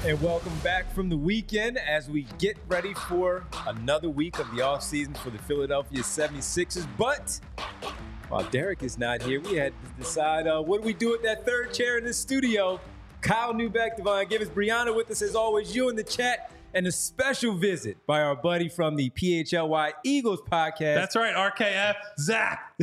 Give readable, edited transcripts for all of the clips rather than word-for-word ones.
And welcome back from the weekend as we get ready for another week of the offseason for the Philadelphia 76ers. But while Derek is not here, we had to decide what do we do with that third chair in the studio. Kyle Neubeck, Devon Givens, Brianna with us as always, you in the chat, and a special visit by our buddy from the PHLY Eagles podcast. That's right, RKF, Zach.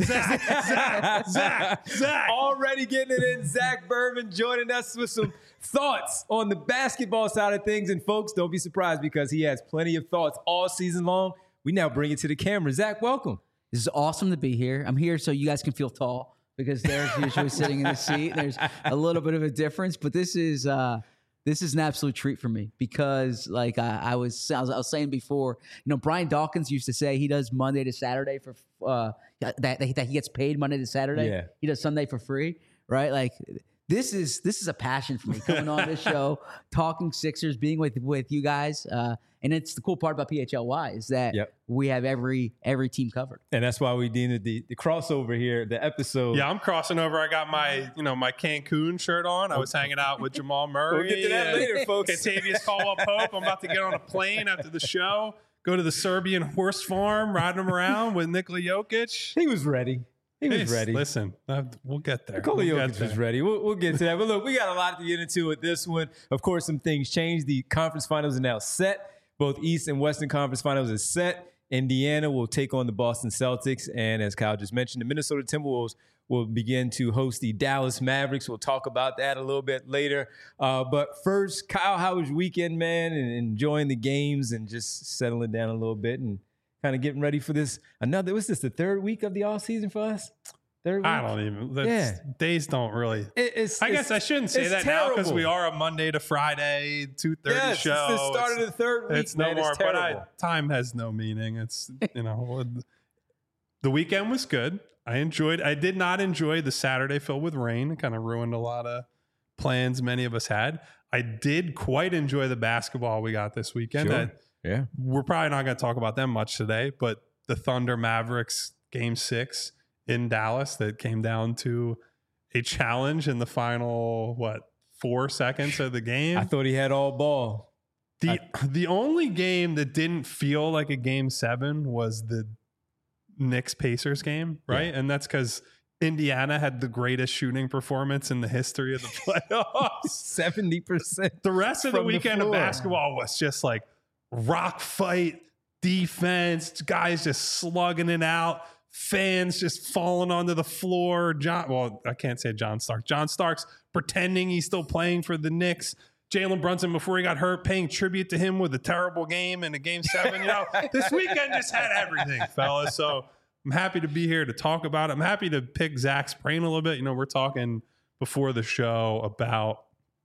Already getting it in. Zach Berman joining us with some thoughts on the basketball side of things. And folks, don't be surprised because he has plenty of thoughts all season long. We now bring it to the camera. Zach, welcome. This is awesome to be here. I'm here so you guys can feel tall because Derek's usually sitting in the seat. There's a little bit of a difference, but this is an absolute treat for me because, like I was saying before, Brian Dawkins used to say he does Monday to Saturday for that he gets paid Monday to Saturday. Yeah. He does Sunday for free, right? Like this is a passion for me coming on this show, talking Sixers, being with you guys. And it's the cool part about PHLY is that we have every team covered. And that's why we deemed it the crossover here, the episode. Yeah, I'm crossing over. I got my Cancun shirt on. I was hanging out with Jamal Murray. We'll get to that later, folks. Kentavious Caldwell-Pope. I'm about to get on a plane after the show, go to the Serbian horse farm, riding him around with Nikola Jokic. He was ready. He was ready. Listen, we'll get there. Nikola Jokic was ready. We'll get to that. But look, we got a lot to get into with this one. Of course, some things changed. The conference finals are now set. Both East and Western Conference finals is set. Indiana will take on the Boston Celtics. And as Kyle just mentioned, the Minnesota Timberwolves will begin to host the Dallas Mavericks. We'll talk about that a little bit later. But first, Kyle, how was your weekend, man? And enjoying the games and just settling down a little bit and kind of getting ready for this. Was this the third week of the off season for us? Third week? I don't even. Days don't really. I guess I shouldn't say that now because we are a Monday to Friday 2:30 show. It's the start of the third week. It's no more. But time has no meaning. It's the weekend was good. I did not enjoy the Saturday filled with rain. It kind of ruined a lot of plans many of us had. I did quite enjoy the basketball we got this weekend. Sure. We're probably not going to talk about them much today, but the Thunder Mavericks Game 6 in Dallas that came down to a challenge in the final, 4 seconds of the game. I thought he had all ball. The only game that didn't feel like a Game 7 was the Knicks-Pacers game, right? Yeah. And that's because Indiana had the greatest shooting performance in the history of the playoffs. 70%. The rest of the weekend of basketball was just like rock fight, defense, guys just slugging it out, fans just falling onto the floor. I can't say John Starks. John Starks pretending he's still playing for the Knicks. Jalen Brunson, before he got hurt, paying tribute to him with a terrible game in a Game 7. This weekend just had everything, fellas. So I'm happy to be here to talk about it. I'm happy to pick Zach's brain a little bit. We're talking before the show about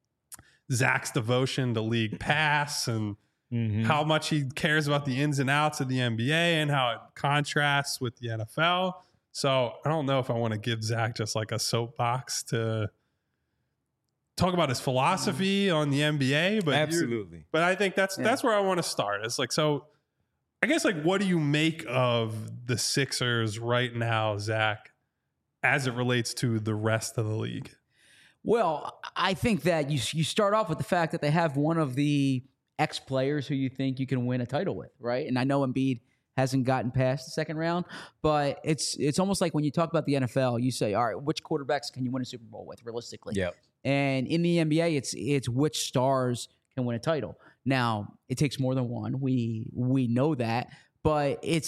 Zach's devotion to League Pass and how much he cares about the ins and outs of the NBA and how it contrasts with the NFL. So I don't know if I want to give Zach just like a soapbox to talk about his philosophy on the NBA, but absolutely. But I think that's where I want to start. It's like, so I guess, like, what do you make of the Sixers right now, Zach, as it relates to the rest of the league? Well, I think that you start off with the fact that they have one of the ex-players who you think you can win a title with, right? And I know Embiid hasn't gotten past the second round, but it's almost like when you talk about the NFL, you say, all right, which quarterbacks can you win a Super Bowl with realistically? Yeah. And in the NBA, it's which stars can win a title. Now, it takes more than one. We know that, but it's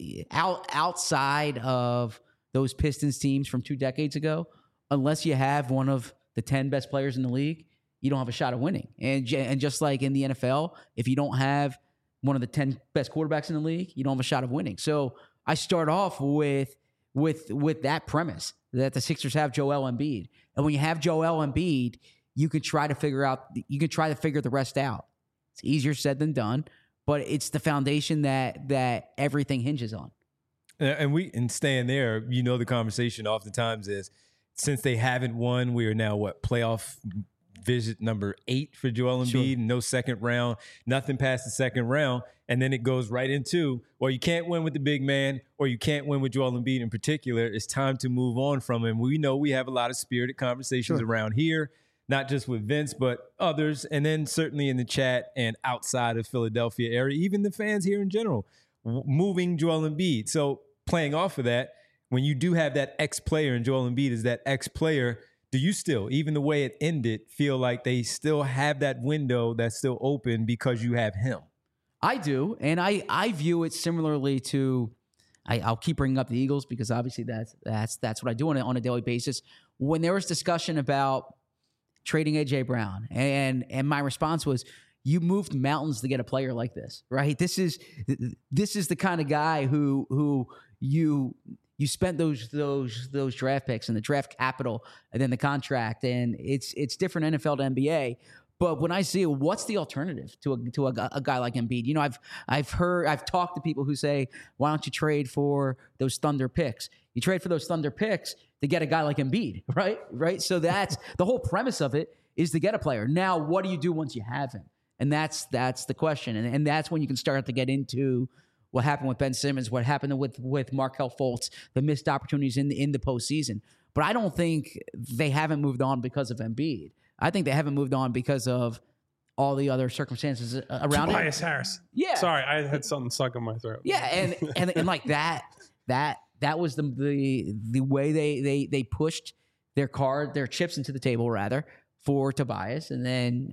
outside of those Pistons teams from 2 decades ago, unless you have one of the 10 best players in the league, you don't have a shot of winning. And just like in the NFL, if you don't have one of the 10 best quarterbacks in the league, you don't have a shot of winning. So I start off with that premise that the Sixers have Joel Embiid. And when you have Joel Embiid, you can try to figure the rest out. It's easier said than done, but it's the foundation that everything hinges on. And staying there, the conversation oftentimes is, since they haven't won, we are now playoff visit number 8 for Joel Embiid. Sure. No second round, nothing past the second round. And then it goes right into, well, you can't win with the big man, or you can't win with Joel Embiid in particular. It's time to move on from him. We know we have a lot of spirited conversations around here. not just with Vince, but others, and then certainly in the chat and outside of Philadelphia area, even the fans here in general, moving Joel Embiid. So playing off of that, when you do have that ex-player, and Joel Embiid is that ex-player, do you still, even the way it ended, feel like they still have that window that's still open because you have him? I do, and I view it similarly to. I'll keep bringing up the Eagles because obviously that's what I do on a daily basis. When there was discussion about trading AJ Brown, and my response was, you moved mountains to get a player like this, right? This is the kind of guy who you spent those draft picks and the draft capital and then the contract, and it's different NFL to NBA. But when I see it, what's the alternative to a guy like Embiid? You know, I've talked to people who say, why don't you trade for those Thunder picks? You trade for those Thunder picks to get a guy like Embiid, right? So that's the whole premise of it, is to get a player. Now, what do you do once you have him? And that's the question. And that's when you can start to get into what happened with Ben Simmons, what happened with Markelle Fultz, the missed opportunities in the postseason. But I don't think they haven't moved on because of Embiid. I think they haven't moved on because of all the other circumstances around Tobias Harris. Yeah. Sorry, I had something stuck in my throat. Yeah, and like that was the way they pushed their chips into the table rather for Tobias, and then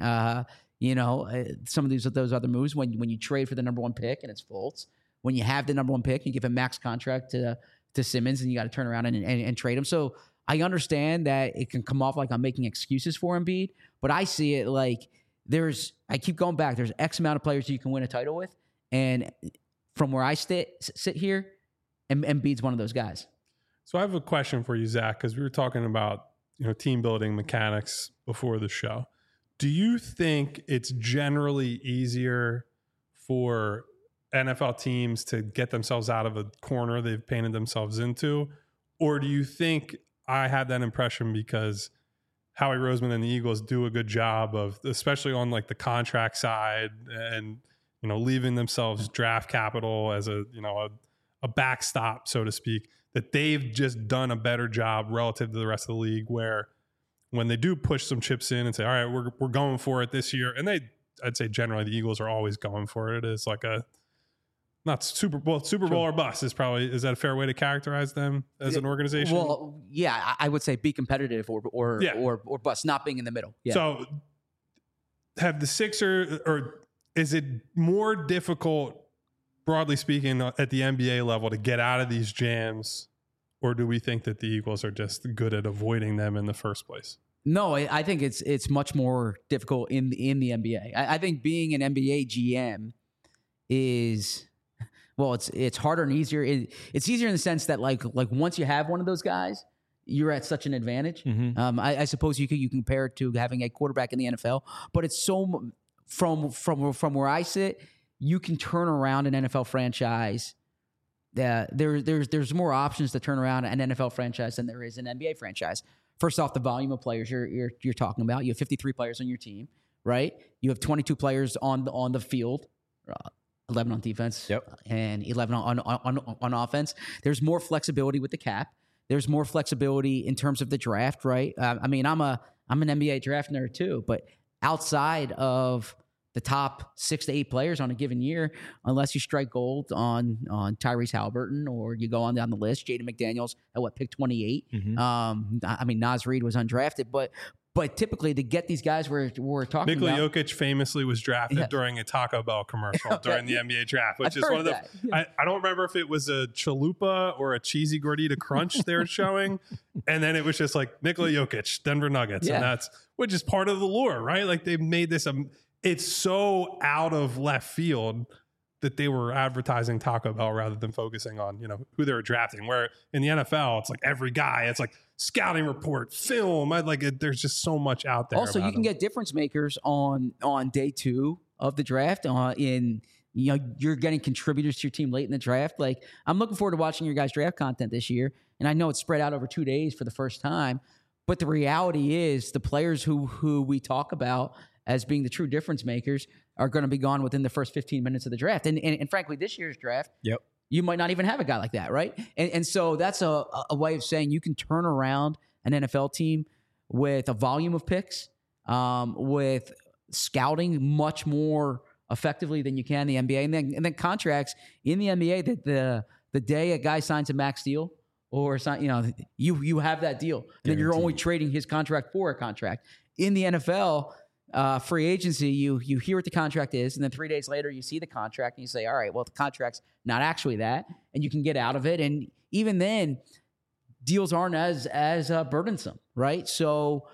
some of those other moves when you trade for the number one pick and it's Fultz. When you have the number one pick, you give a max contract to Simmons, and you got to turn around and trade him. So I understand that it can come off like I'm making excuses for Embiid, but I see it like I keep going back. There's X amount of players you can win a title with, and from where I sit here, Embiid's one of those guys. So I have a question for you, Zach, because we were talking about team building mechanics before the show. Do you think it's generally easier for NFL teams to get themselves out of a corner they've painted themselves into? Or do you think I had that impression because Howie Roseman and the Eagles do a good job of, especially on like the contract side and, leaving themselves draft capital as a backstop, so to speak, that they've just done a better job relative to the rest of the league, where when they do push some chips in and say, all right, we're going for it this year. And I'd say generally the Eagles are always going for it. It's like not Super Bowl or bust is that a fair way to characterize them as an organization? Well, yeah, I would say be competitive or bust, not being in the middle. Yeah. So have the Sixers, or is it more difficult, broadly speaking, at the NBA level to get out of these jams, or do we think that the Eagles are just good at avoiding them in the first place? No, I think it's much more difficult in the NBA. I think being an NBA GM is... Well, it's harder and easier. It's easier in the sense that like once you have one of those guys, you're at such an advantage. Mm-hmm. I suppose you can compare it to having a quarterback in the NFL, but it's so from where I sit, you can turn around an NFL franchise. There's more options to turn around an NFL franchise than there is an NBA franchise. First off, the volume of players you're talking about. You have 53 players on your team, right? You have 22 players on the field. 11 on defense, and 11 on offense. There's more flexibility with the cap. There's more flexibility in terms of the draft, right? I'm an NBA draft nerd too, but outside of the top 6 to 8 players on a given year, unless you strike gold on Tyrese Halliburton or you go on down the list, Jaden McDaniels at pick 28. Mm-hmm. Naz Reid was undrafted, but typically to get these guys we're talking Nikola about. Jokic famously was drafted during a Taco Bell commercial during the NBA draft, which is one of the. Yeah. I don't remember if it was a chalupa or a cheesy gordita crunch they were showing, and then it was just like Nikola Jokic, Denver Nuggets, and which is part of the lore, right? Like they made this. It's so out of left field that they were advertising Taco Bell rather than focusing on who they were drafting. Where in the NFL, it's like every guy, it's like scouting report, film. There's just so much out there. Also, you can get difference makers on day 2 of the draft. You're getting contributors to your team late in the draft. Like I'm looking forward to watching your guys' draft content this year, and I know it's spread out over 2 days for the first time. But the reality is, the players who we talk about as being the true difference makers are going to be gone within the first 15 minutes of the draft. And frankly, this year's draft, you might not even have a guy like that, right? And so that's a way of saying you can turn around an NFL team with a volume of picks with scouting much more effectively than you can in the NBA, and then contracts in the NBA that the day a guy signs a max deal or you have that deal, and then you're only trading his contract for a contract. In the NFL, free agency, you hear what the contract is, and then 3 days later you see the contract and you say, all right, well, the contract's not actually that, and you can get out of it. And even then, deals aren't as burdensome, right? So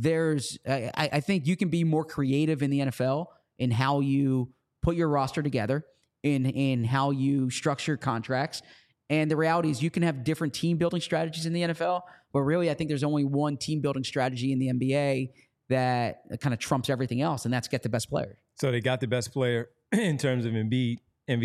I think you can be more creative in the NFL in how you put your roster together, in how you structure contracts. And the reality is you can have different team building strategies in the NFL, but really I think there's only one team building strategy in the NBA that kind of trumps everything else, and that's get the best player. So they got the best player in terms of Embiid,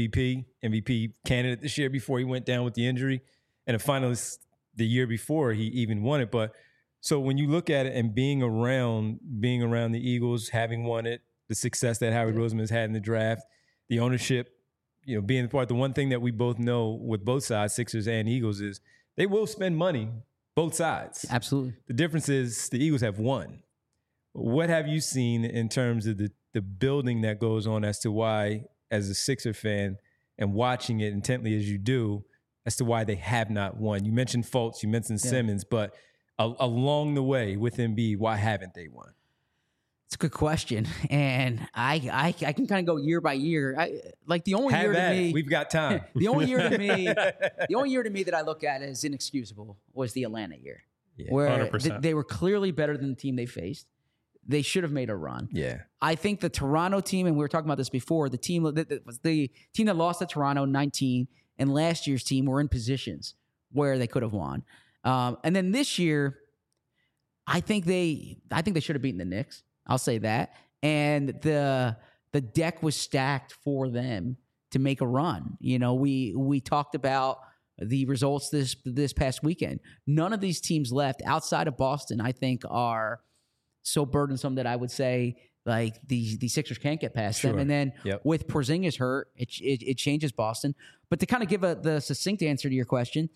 MVP candidate this year before he went down with the injury, and a finalist the year before he even won it. But so when you look at it and being around the Eagles, having won it, the success that Howard Roseman has had in the draft, the ownership, being the part, the one thing that we both know with both sides, Sixers and Eagles, is they will spend money, both sides. Absolutely. The difference is the Eagles have won. What have you seen in terms of the building that goes on as to why, as a Sixer fan and watching it intently as you do, as to why they have not won? You mentioned Fultz, you mentioned Simmons, but along the way with Embiid, why haven't they won? It's a good question, and I can kind of go year by year. The only year to me, we've got time. The only year to me that I look at as inexcusable was the Atlanta year, where 100%. They were clearly better than the team they faced. They should have made a run. Yeah, I think the Toronto team, and we were talking about this before, the team that was the team that lost to Toronto 19, and last year's team were in positions where they could have won. And then this year, I think they should have beaten the Knicks. I'll say that. And the deck was stacked for them to make a run. We talked about the results this past weekend. None of these teams left outside of Boston, I think, are so burdensome that I would say the Sixers can't get past them. And then with Porzingis hurt, it changes Boston. But to kind of give the succinct answer to your question,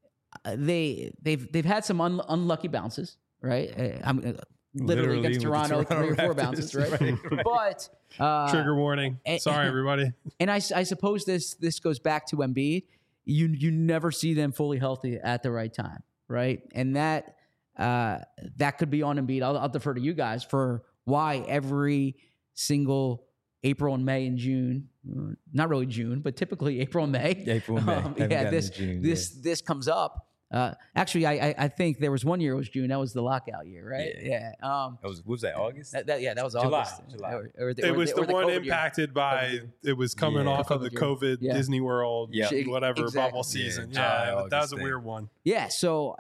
they've had some unlucky bounces, right? I'm literally against Toronto 3 or 4 bounces, right? But trigger warning. Sorry, everybody. And I suppose this goes back to Embiid. You never see them fully healthy at the right time, right? And that could be on Embiid. I'll defer to you guys for why every single April and May and June, not really June, but typically April and May. This comes up. Actually, I think there was one year it was June. That was the lockout year, right? Yeah. Was that August? That was August. July. It was the one impacted by. It was coming off of the COVID Disney World, whatever bubble season. Yeah, that was a weird one. Yeah. So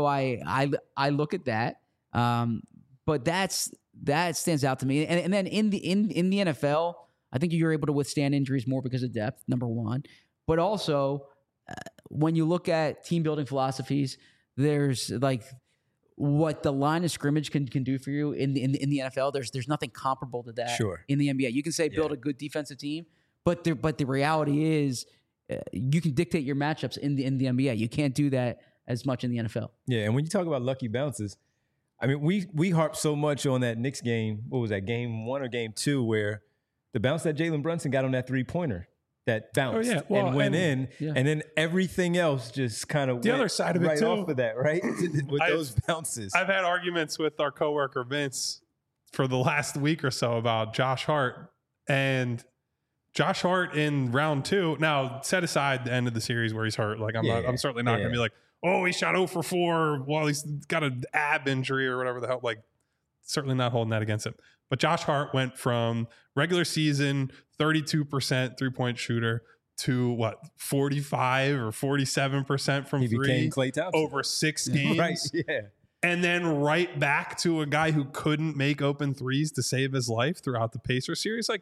I look at that, but that stands out to me. And then in the NFL, I think you're able to withstand injuries more because of depth. Number one, but also. When you look at team building philosophies, there's what the line of scrimmage can do for you in the NFL. There's nothing comparable to that in the NBA. You can say build a good defensive team, but the reality is you can dictate your matchups in the NBA. You can't do that as much in the NFL. Yeah, and when you talk about lucky bounces, I mean we harp so much on that Knicks game. What was that, game 1 or game 2, where the bounce that Jalen Brunson got on that 3-pointer? That bounced and went in, and then everything else just kind of the other side of it too. Off of that, right? With those bounces. I've had arguments with our coworker Vince for the last week or so about Josh Hart, and Josh Hart in round 2. Now, set aside the end of the series where he's hurt. I'm certainly not going to be like, oh, he shot 0 for 4 while he's got an ab injury or whatever the hell. Certainly not holding that against him. But Josh Hart went from regular season 32% 3-point shooter to 45 or 47% from he three. Became Klay Thompson over 6 games. Right, yeah. And then right back to a guy who couldn't make open threes to save his life throughout the Pacers series.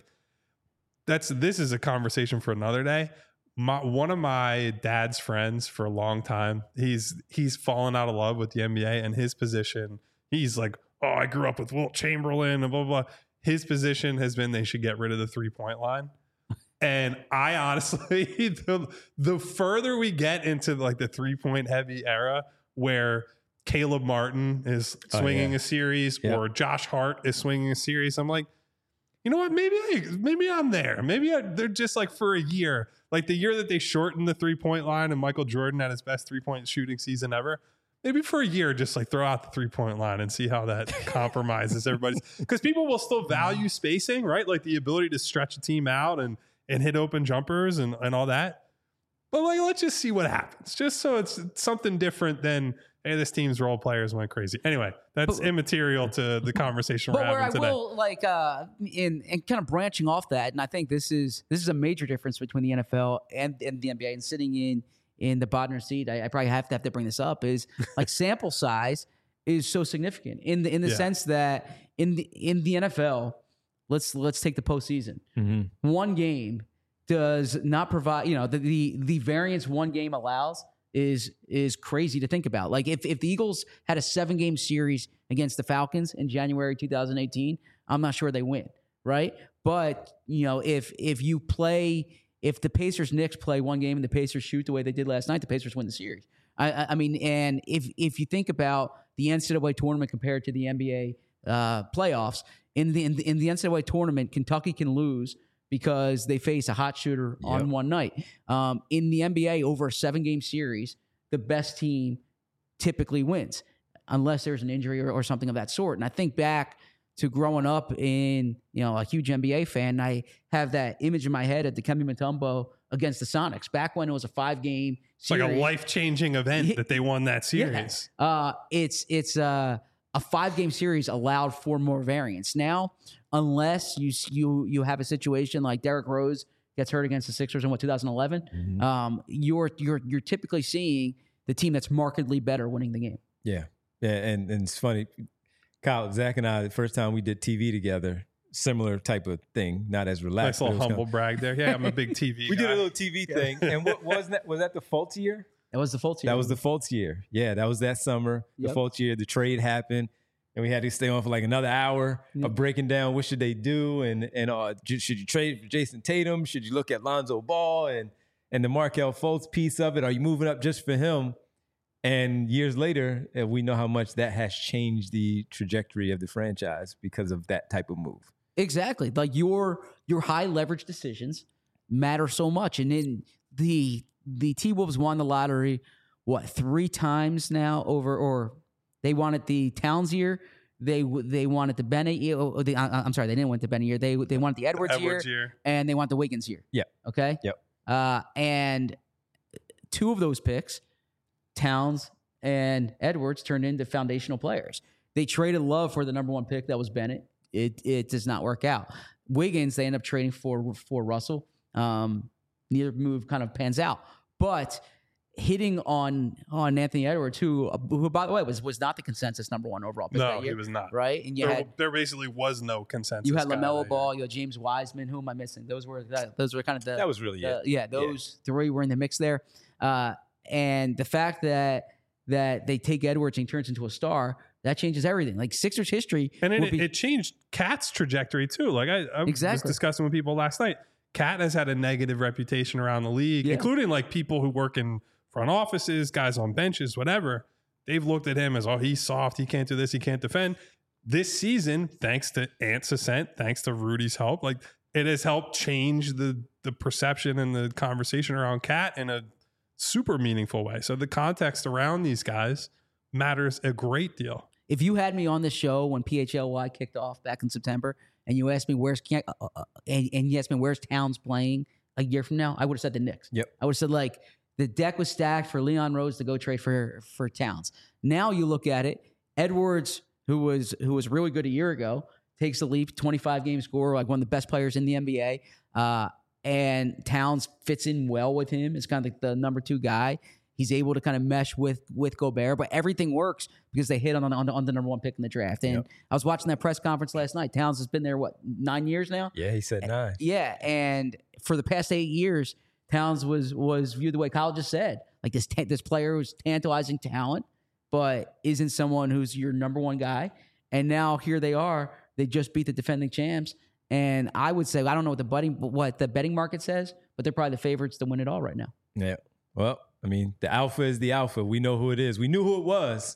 This is a conversation for another day. One of my dad's friends for a long time, he's fallen out of love with the NBA and his position. He's like, oh, I grew up with Wilt Chamberlain and blah, blah, blah. His position has been they should get rid of the 3-point line. And I honestly, the further we get into the 3-point heavy era where Caleb Martin is swinging a series or Josh Hart is swinging a series. I'm like, you know what? Maybe I'm there. They're just like for a year, like the year that they shortened the 3-point line and Michael Jordan had his best 3-point shooting season ever. Maybe for a year, just like throw out the 3-point line and see how that compromises everybody's. Because people will still value spacing, right? Like the ability to stretch a team out and hit open jumpers and all that. But like, let's just see what happens. Just so it's something different than, hey, this team's role players went crazy. Anyway, that's immaterial to the conversation we're having today. But where I will like in kind of branching off that, and I think this is a major difference between the NFL and the NBA. And sitting in the Bodner seat, I probably have to bring this up, is like sample size is so significant in the sense that in the NFL, let's take the postseason. Mm-hmm. One game does not provide, the variance one game allows is crazy to think about. Like if the Eagles had a 7-game series against the Falcons in January 2018, I'm not sure they win, right? But if the Pacers-Knicks play one game and the Pacers shoot the way they did last night, the Pacers win the series. I mean, and if you think about the NCAA tournament compared to the NBA playoffs, in the NCAA tournament, Kentucky can lose because they face a hot shooter on one night. In the NBA, over a 7-game series, the best team typically wins, unless there's an injury or something of that sort. And I think back to growing up in, a huge NBA fan, I have that image in my head at Dikembe Mutombo against the Sonics, back when it was a 5-game series. It's like a life-changing event that they won that series. Yeah. It's a 5-game series allowed for more variance. Now, unless you have a situation like Derrick Rose gets hurt against the Sixers in 2011, you're typically seeing the team that's markedly better winning the game. Yeah, and it's funny, Kyle, Zach and I, the first time we did TV together, similar type of thing, not as relaxed. Nice little humble brag there. Yeah, I'm a big TV guy. We did a little TV thing, and what was that the Fultz year? That was the Fultz year. That was the Fultz year. Yeah, that was that summer. The Fultz year, the trade happened. And we had to stay on for like another hour of breaking down what should they do and should you trade for Jason Tatum? Should you look at Lonzo Ball and the Markelle Fultz piece of it? Are you moving up just for him? And years later, we know how much that has changed the trajectory of the franchise because of that type of move. Exactly. Like your high leverage decisions matter so much. And then the T-Wolves won the lottery, 3 times now or they wanted the Towns year. They wanted the Bennett year. I'm sorry, they didn't want the Bennett year. They wanted the Edwards year, and they want the Wiggins year. Yeah. Okay. Yep. And 2 of those picks, Towns and Edwards, turned into foundational players. They traded Love for the number 1 pick. That was Bennett. It does not work out. Wiggins, they end up trading for Russell. Neither move kind of pans out, but hitting on Anthony Edwards, who by the way was not the consensus number 1 overall pick that year. He was not. Right, and there basically was no consensus. You had LaMelo Ball, you had James Wiseman. Who am I missing? Those were kind of the. That was really it. Yeah, those 3 were in the mix there, and the fact that they take Edwards and he turns into a star, that changes everything. Like Sixers history, and it changed Cat's trajectory too. Like I was discussing with people last night. Cat has had a negative reputation around the league, including like people who work in front offices, guys on benches, whatever. They've looked at him as, he's soft. He can't do this. He can't defend. This season, thanks to Ant's ascent, thanks to Rudy's help, like it has helped change the perception and the conversation around Cat in a super meaningful way. So the context around these guys matters a great deal. If you had me on the show when PHLY kicked off back in September, and you asked me where's Towns playing a year from now, I would have said the Knicks. Yep. I would have said like the deck was stacked for Leon Rose to go trade for Towns. Now you look at it, Edwards, who was really good a year ago, takes the leap, 25-game scorer, like one of the best players in the NBA. And Towns fits in well with him. It's kind of like the number 2 guy. He's able to kind of mesh with Gobert, but everything works because they hit on the number 1 pick in the draft. And I was watching that press conference last night. Towns has been there, 9 years now? Yeah, he said 9. Yeah, and for the past 8 years, Towns was viewed the way Kyle just said. Like this player who's tantalizing talent, but isn't someone who's your number 1 guy. And now here they are. They just beat the defending champs. And I would say, I don't know what the betting market says, but they're probably the favorites to win it all right now. Yeah. Well, I mean, the alpha is the alpha. We know who it is. We knew who it was.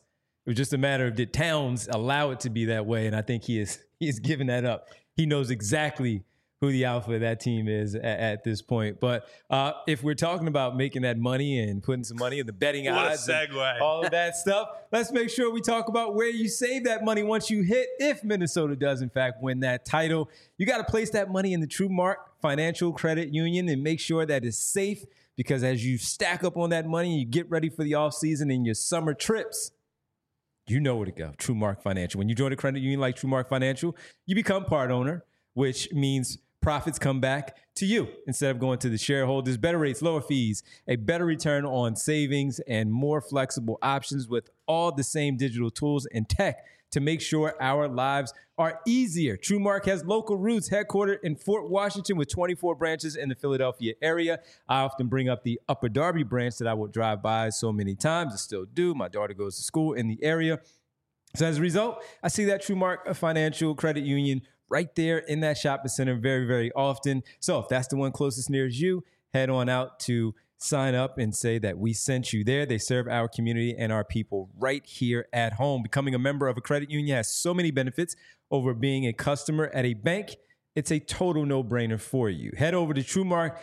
It was just a matter of did Towns allow it to be that way, and I think he is given that up. He knows exactly who the alpha of that team is at this point. But if we're talking about making that money and putting some money in the betting odds, segue. all of that stuff, let's make sure we talk about where you save that money once you hit, if Minnesota does in fact win that title. You got to place that money in the TrueMark Financial Credit Union and make sure that it's safe, because as you stack up on that money and you get ready for the offseason and your summer trips, you know where to go. TrueMark Financial. When you join a credit union like TrueMark Financial, you become part owner, which means profits come back to you instead of going to the shareholders. Better rates, lower fees, a better return on savings, and more flexible options with all the same digital tools and tech to make sure our lives are easier. TrueMark has local roots, headquartered in Fort Washington with 24 branches in the Philadelphia area. I often bring up the Upper Darby branch that I will drive by so many times. I still do. My daughter goes to school in the area. So as a result, I see that TrueMark Financial Credit Union right there in that shopping center very, very often. So if that's the one closest near you, head on out to sign up and say that we sent you there. They serve our community and our people right here at home. Becoming a member of a credit union has so many benefits over being a customer at a bank. It's a total no-brainer for you. Head over to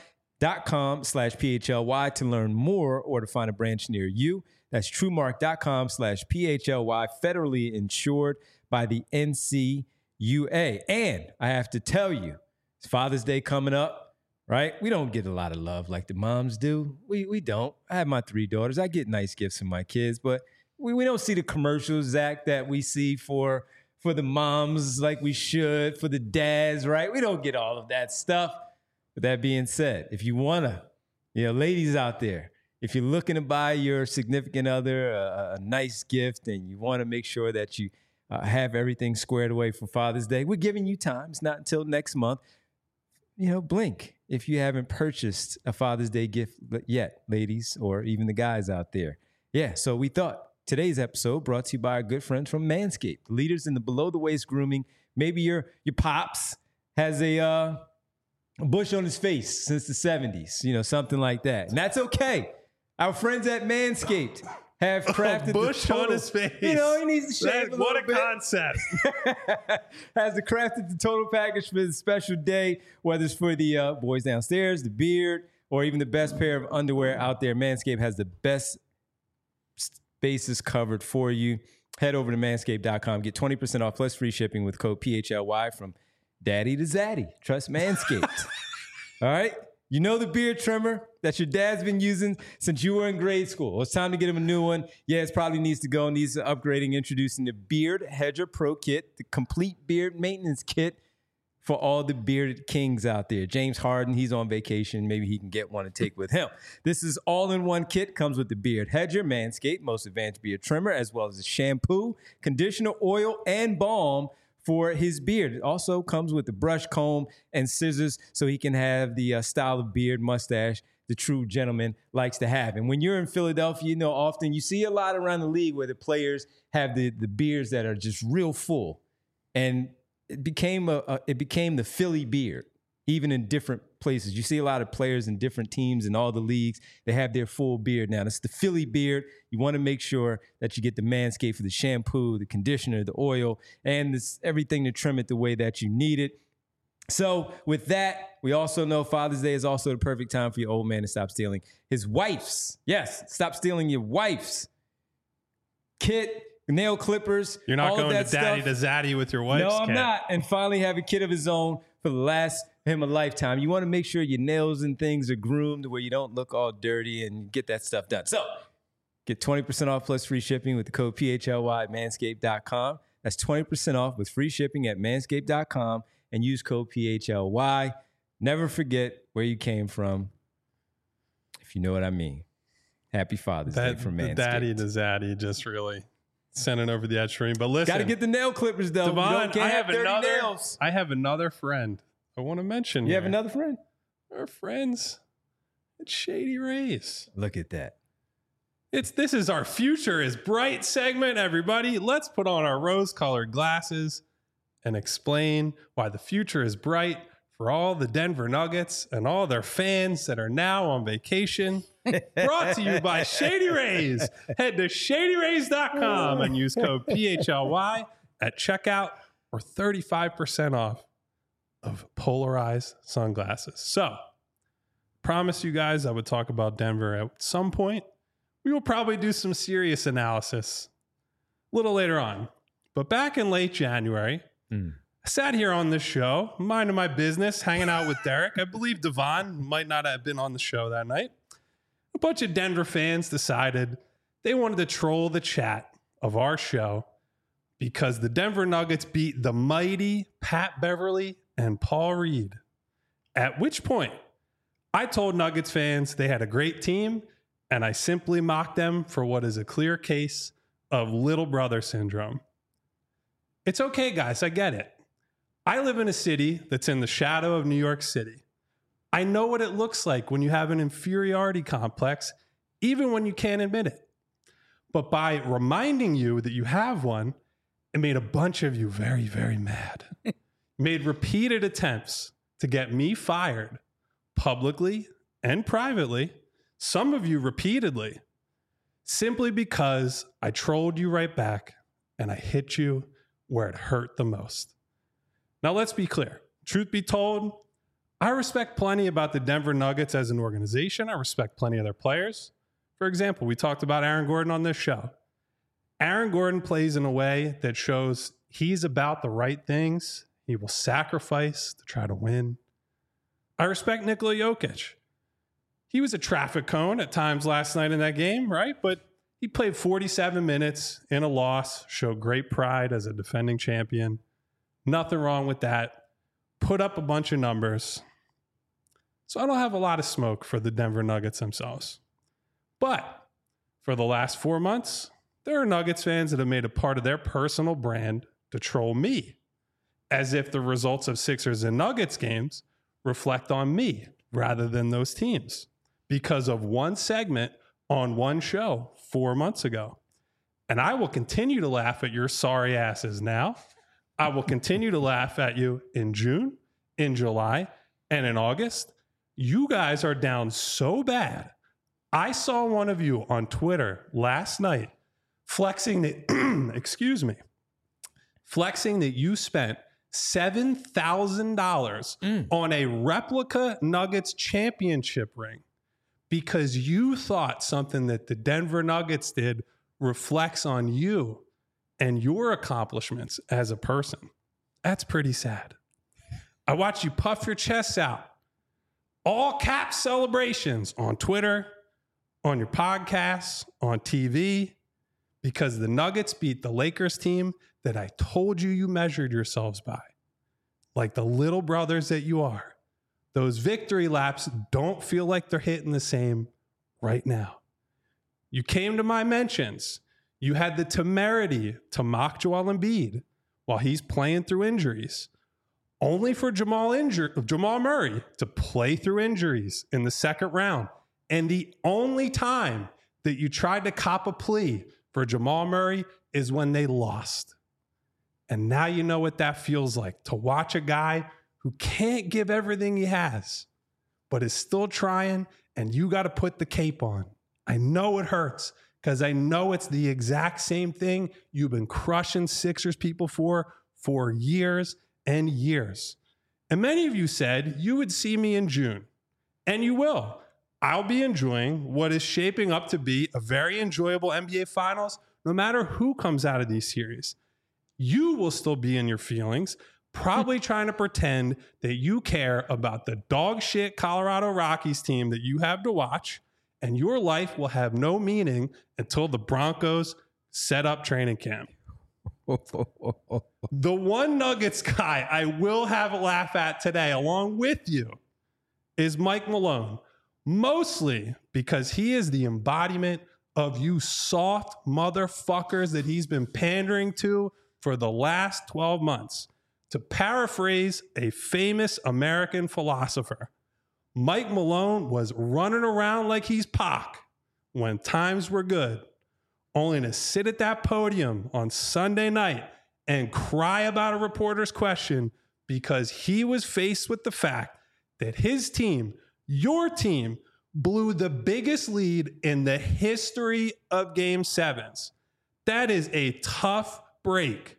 TrueMark.com/PHLY to learn more or to find a branch near you. That's TrueMark.com/PHLY, federally insured by the NCUA. And I have to tell you, it's Father's Day coming up, right? We don't get a lot of love like the moms do. We don't. I have my 3 daughters. I get nice gifts from my kids, but we don't see the commercials, Zach, that we see for the moms like we should, for the dads, right? We don't get all of that stuff. With that being said, if you want to, ladies out there, if you're looking to buy your significant other a nice gift and you want to make sure that you have everything squared away for Father's Day, we're giving you time. It's not until next month. Blink if you haven't purchased a Father's Day gift yet, ladies, or even the guys out there. Yeah, so we thought today's episode brought to you by our good friends from Manscaped, leaders in the below-the-waist grooming. Maybe your pops has a bush on his face since the 70s, something like that. And that's okay. Our friends at Manscaped have crafted bush the total, on his face. He needs to shave a little bit. What a concept. Has crafted the total package for the special day, whether it's for the boys downstairs, the beard, or even the best pair of underwear out there. Manscaped has the best bases covered for you. Head over to manscaped.com. Get 20% off plus free shipping with code PHLY from daddy to zaddy. Trust Manscaped. All right? The beard trimmer that your dad's been using since you were in grade school. Well, it's time to get him a new one. Yeah, it probably needs to go. Needs upgrading. Introducing the Beard Hedger Pro Kit, the complete beard maintenance kit for all the bearded kings out there. James Harden, he's on vacation. Maybe he can get one and take with him. This is all-in-one kit. Comes with the Beard Hedger, Manscaped, most advanced beard trimmer, as well as the shampoo, conditioner, oil, and balm for his beard. It also comes with the brush, comb, and scissors so he can have the style of beard, mustache the true gentleman likes to have. And when you're in Philadelphia, often you see a lot around the league where the players have the beards that are just real full. And it became the Philly beard, even in different places. You see a lot of players in different teams in all the leagues. They have their full beard now. That's the Philly beard. You want to make sure that you get the Manscaped for the shampoo, the conditioner, the oil, and everything to trim it the way that you need it. So with that, we also know Father's Day is also the perfect time for your old man to stop stealing his wife's. Yes, stop stealing your wife's kit, nail clippers. You're not going to daddy to zaddy with your wife's No, I'm kit. not. And finally have a kid of his own for the last him a lifetime. You want to make sure your nails and things are groomed where you don't look all dirty and get that stuff done. So get 20% off plus free shipping with the code PHLY at manscaped.com. That's 20% off with free shipping at manscaped.com and use code PHLY. Never forget where you came from, if you know what I mean. Happy Father's Day from Manscaped. The daddy to zaddy just really sending over the edge for me. But listen. Got to get the nail clippers, though. Devon, Can't have dirty nails. I have another friend I want to mention. You have another friend? Our friends at Shady Rays. Look at that. This is our Future is Bright segment, everybody. Let's put on our rose-colored glasses and explain why the future is bright for all the Denver Nuggets and all their fans that are now on vacation Brought to you by Shady Rays. Head to shadyrays.com and use code PHLY at checkout for 35% off of polarized sunglasses. So, promise you guys I would talk about Denver at some point. We will probably do some serious analysis a little later on. But back in late January, I sat here on this show, minding my business, hanging out with Derek. I believe Devon might not have been on the show that night. A bunch of Denver fans decided they wanted to troll the chat of our show because the Denver Nuggets beat the mighty Pat Beverly and Paul Reed. At which point, I told Nuggets fans they had a great team, and I simply mocked them for what is a clear case of little brother syndrome. It's okay, guys. I get it. I live in a city that's in the shadow of New York City. I know what it looks like when you have an inferiority complex, even when you can't admit it. But by reminding you that you have one, it made a bunch of you very, very mad. Made repeated attempts to get me fired publicly and privately, some of you repeatedly, simply because I trolled you right back and I hit you where it hurt the most. Now, let's be clear. Truth be told, I respect plenty about the Denver Nuggets as an organization. I respect plenty of their players. For example, we talked about Aaron Gordon on this show. Aaron Gordon plays in a way that shows he's about the right things. He will sacrifice to try to win. I respect Nikola Jokic. He was a traffic cone at times last night in that game, right? But he played 47 minutes in a loss, showed great pride as a defending champion. Nothing wrong with that. Put up a bunch of numbers. So I don't have a lot of smoke for the Denver Nuggets themselves. But for the last 4 months, there are Nuggets fans that have made a part of their personal brand to troll me, as if the results of Sixers and Nuggets games reflect on me rather than those teams because of one segment on one show 4 months ago. And I will continue to laugh at your sorry asses now. I will continue to laugh at you in June, in July, and in August. You guys are down so bad. I saw one of you on Twitter last night flexing that, excuse me, flexing that you spent $7,000 on a replica Nuggets championship ring because you thought something that the Denver Nuggets did reflects on you and your accomplishments as a person. That's pretty sad. I watched you puff your chests out. All cap celebrations on Twitter, on your podcasts, on TV, because the Nuggets beat the Lakers team that I told you measured yourselves by. Like the little brothers that you are. Those victory laps don't feel like they're hitting the same right now. You came to my mentions. You had the temerity to mock Joel Embiid while he's playing through injuries, only for Jamal Murray to play through injuries in the second round. And the only time that you tried to cop a plea for Jamal Murray is when they lost. And now you know what that feels like, to watch a guy who can't give everything he has, but is still trying, and you got to put the cape on. I know it hurts because I know it's the exact same thing you've been crushing Sixers people for years and years. And many of you said you would see me in June, and you will. I'll be enjoying what is shaping up to be a very enjoyable NBA Finals, no matter who comes out of these series. You will still be in your feelings, probably trying to pretend that you care about the dog shit Colorado Rockies team that you have to watch, and your life will have no meaning until the Broncos set up training camp. The one Nuggets guy I will have a laugh at today, along with you, is Mike Malone. Mostly because he is the embodiment of you soft motherfuckers that he's been pandering to for the last 12 months. To paraphrase a famous American philosopher, Mike Malone was running around like he's Pac when times were good, only to sit at that podium on Sunday night and cry about a reporter's question because he was faced with the fact that his team, your team, blew the biggest lead in the history of Game 7s. That is a tough break.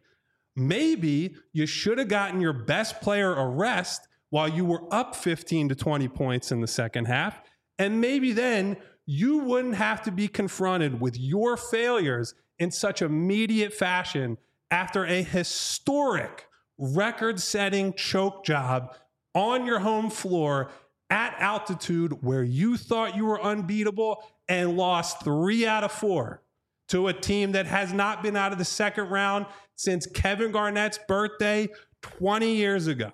Maybe you should have gotten your best player a rest while you were up 15 to 20 points in the second half. And maybe then you wouldn't have to be confronted with your failures in such immediate fashion after a historic record-setting choke job on your home floor at altitude where you thought you were unbeatable and lost 3 out of 4 to a team that has not been out of the second round since Kevin Garnett's birthday 20 years ago.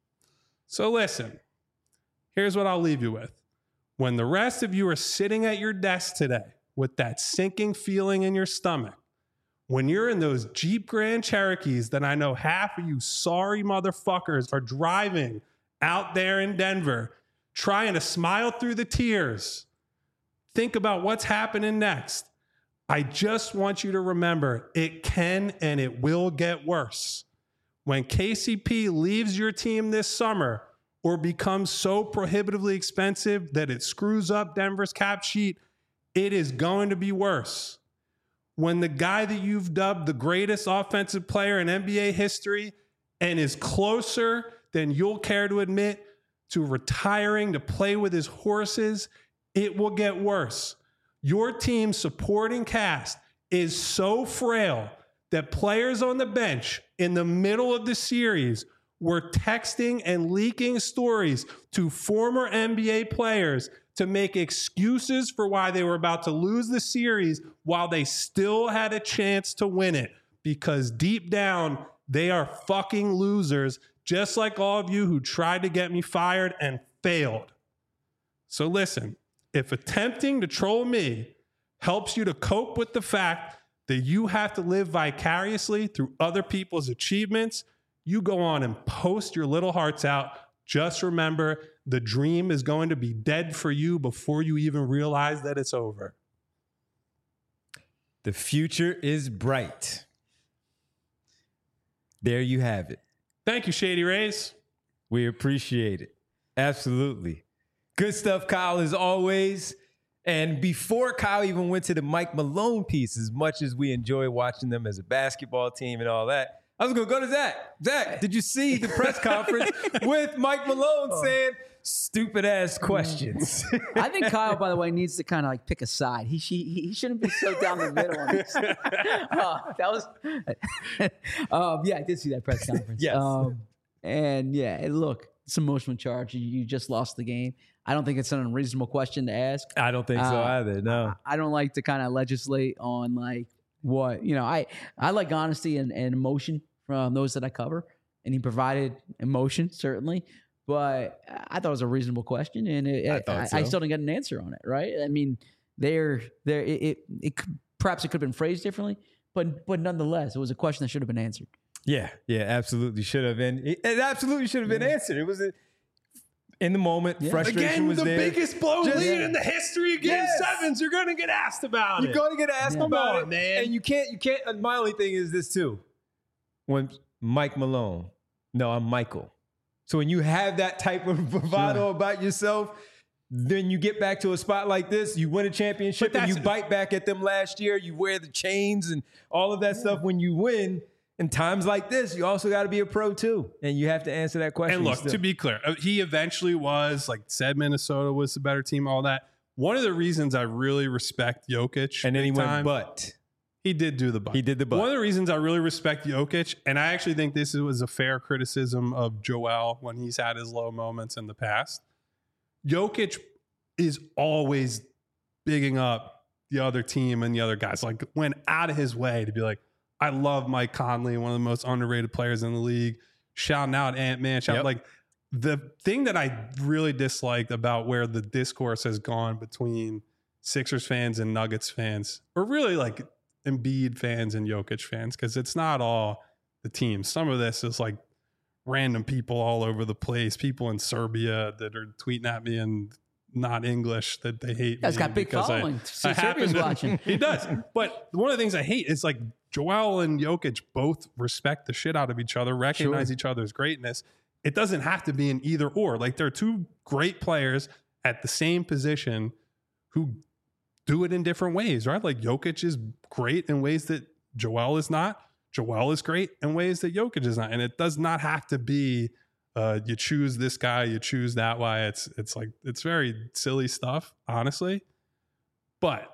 So listen, here's what I'll leave you with. When the rest of you are sitting at your desk today with that sinking feeling in your stomach, when you're in those Jeep Grand Cherokees that I know half of you sorry motherfuckers are driving out there in Denver, trying to smile through the tears, think about what's happening next. I just want you to remember it can and it will get worse. When KCP leaves your team this summer or becomes so prohibitively expensive that it screws up Denver's cap sheet, it is going to be worse. When the guy that you've dubbed the greatest offensive player in NBA history and is closer than you'll care to admit to retiring to play with his horses, it will get worse. Your team's supporting cast is so frail that players on the bench in the middle of the series were texting and leaking stories to former NBA players to make excuses for why they were about to lose the series while they still had a chance to win it. Because deep down, they are fucking losers, just like all of you who tried to get me fired and failed. So listen, if attempting to troll me helps you to cope with the fact that you have to live vicariously through other people's achievements, you go on and post your little hearts out. Just remember, the dream is going to be dead for you before you even realize that it's over. The future is bright. There you have it. Thank you, Shady Rays. We appreciate it. Absolutely. Good stuff, Kyle, as always. And before Kyle even went to the Mike Malone piece, as much as we enjoy watching them as a basketball team and all that, I was going to go to Zach. Zach, did you see the press conference with Mike Malone saying stupid ass questions? I think Kyle, by the way, needs to kind of like pick a side. He shouldn't be so down the middle on this. Yeah, I did see that press conference. Yes. And yeah, look, it's emotional charge. You just lost the game. I don't think it's an unreasonable question to ask. I don't think so either. No. I don't like to kind of legislate on like what, you know, I like honesty and emotion from those that I cover, and he provided emotion, certainly. But I thought it was a reasonable question, and I still didn't get an answer on it, right? I mean, perhaps it could have been phrased differently, but nonetheless, it was a question that should have been answered. Yeah, absolutely should have been. It absolutely should have been answered. It was in the moment, frustration Again, was there. The biggest blow lead in the history of Game 7s. You're going to get asked about it. You're going to get asked about it, man. And you can't. My only thing is this too. When Mike Malone, no, I'm Michael. So when you have that type of bravado about yourself, then you get back to a spot like this, you win a championship, and you bite back at them last year. You wear the chains and all of that stuff when you win. In times like this, you also got to be a pro too, and you have to answer that question. And look, to be clear, he eventually was, like, said Minnesota was the better team, all that. One of the reasons I really respect Jokic, and then he went, but he did do the but. He did the but. One of the reasons I really respect Jokic, and I actually think this was a fair criticism of Joel when he's had his low moments in the past. Jokic is always bigging up the other team and the other guys. Like, went out of his way to be like, I love Mike Conley, one of the most underrated players in the league. Shouting out Ant-Man. Like, the thing that I really disliked about where the discourse has gone between Sixers fans and Nuggets fans, or really like Embiid fans and Jokic fans, because it's not all the teams. Some of this is like random people all over the place, people in Serbia that are tweeting at me in not English that they hate. He's got big following. Serbia's watching. He does. But one of the things I hate is like Joel and Jokic both respect the shit out of each other, recognize each other's greatness. It doesn't have to be an either or. Like, they're two great players, at the same position who do it in different ways, right? Like Jokic is great in ways that Joel is not. Joel is great in ways that Jokic is not. And it does not have to be you choose this guy, you choose that guy. It's like, it's very silly stuff, honestly. But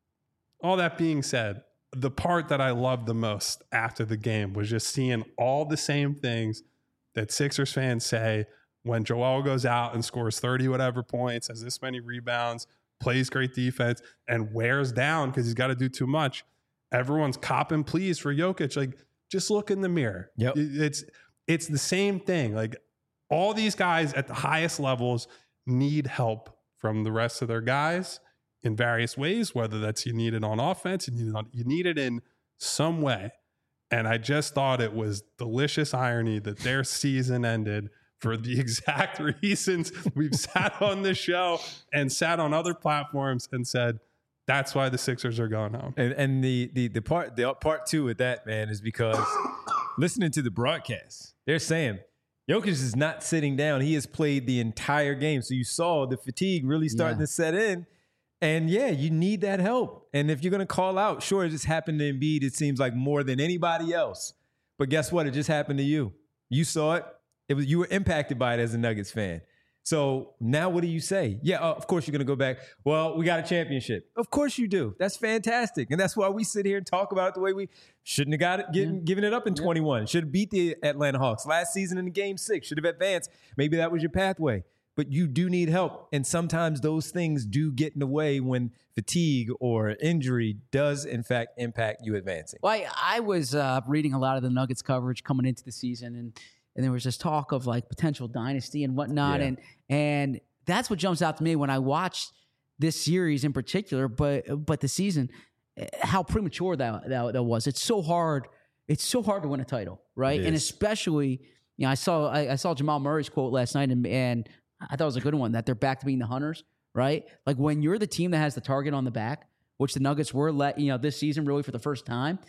all that being said, the part that I loved the most after the game was just seeing all the same things that Sixers fans say when Joel goes out and scores 30 whatever points, has this many rebounds, plays great defense, and wears down because he's got to do too much. Everyone's copping pleas for Jokic. Like, just look in the mirror. Yep. It's the same thing. Like, all these guys at the highest levels need help from the rest of their guys in various ways, whether that's you need it on offense, you need it in some way. And I just thought it was delicious irony that their season ended for the exact reasons we've sat on this show and sat on other platforms and said, that's why the Sixers are going home. And the part two with that, man, is because listening to the broadcast, they're saying Jokic is not sitting down. He has played the entire game. So you saw the fatigue really starting to set in. And yeah, you need that help. And if you're going to call out, sure, it just happened to Embiid, it seems like more than anybody else. But guess what? It just happened to you. You saw it. You were impacted by it as a Nuggets fan. So now what do you say? Yeah, of course you're going to go back. Well, we got a championship. Of course you do. That's fantastic. And that's why we sit here and talk about it the way we shouldn't have got it, given it up in 21. Should have beat the Atlanta Hawks last season in the Game 6. Should have advanced. Maybe that was your pathway. But you do need help. And sometimes those things do get in the way when fatigue or injury does, in fact, impact you advancing. Well, I was reading a lot of the Nuggets coverage coming into the season, and there was this talk of like potential dynasty and whatnot. Yeah. And that's what jumps out to me when I watched this series in particular, but the season, how premature that was. It's so hard. It's so hard to win a title, right? And especially, you know, I saw Jamal Murray's quote last night, and I thought it was a good one, that they're back to being the hunters, right? Like when you're the team that has the target on the back, which the Nuggets were this season really for the first time,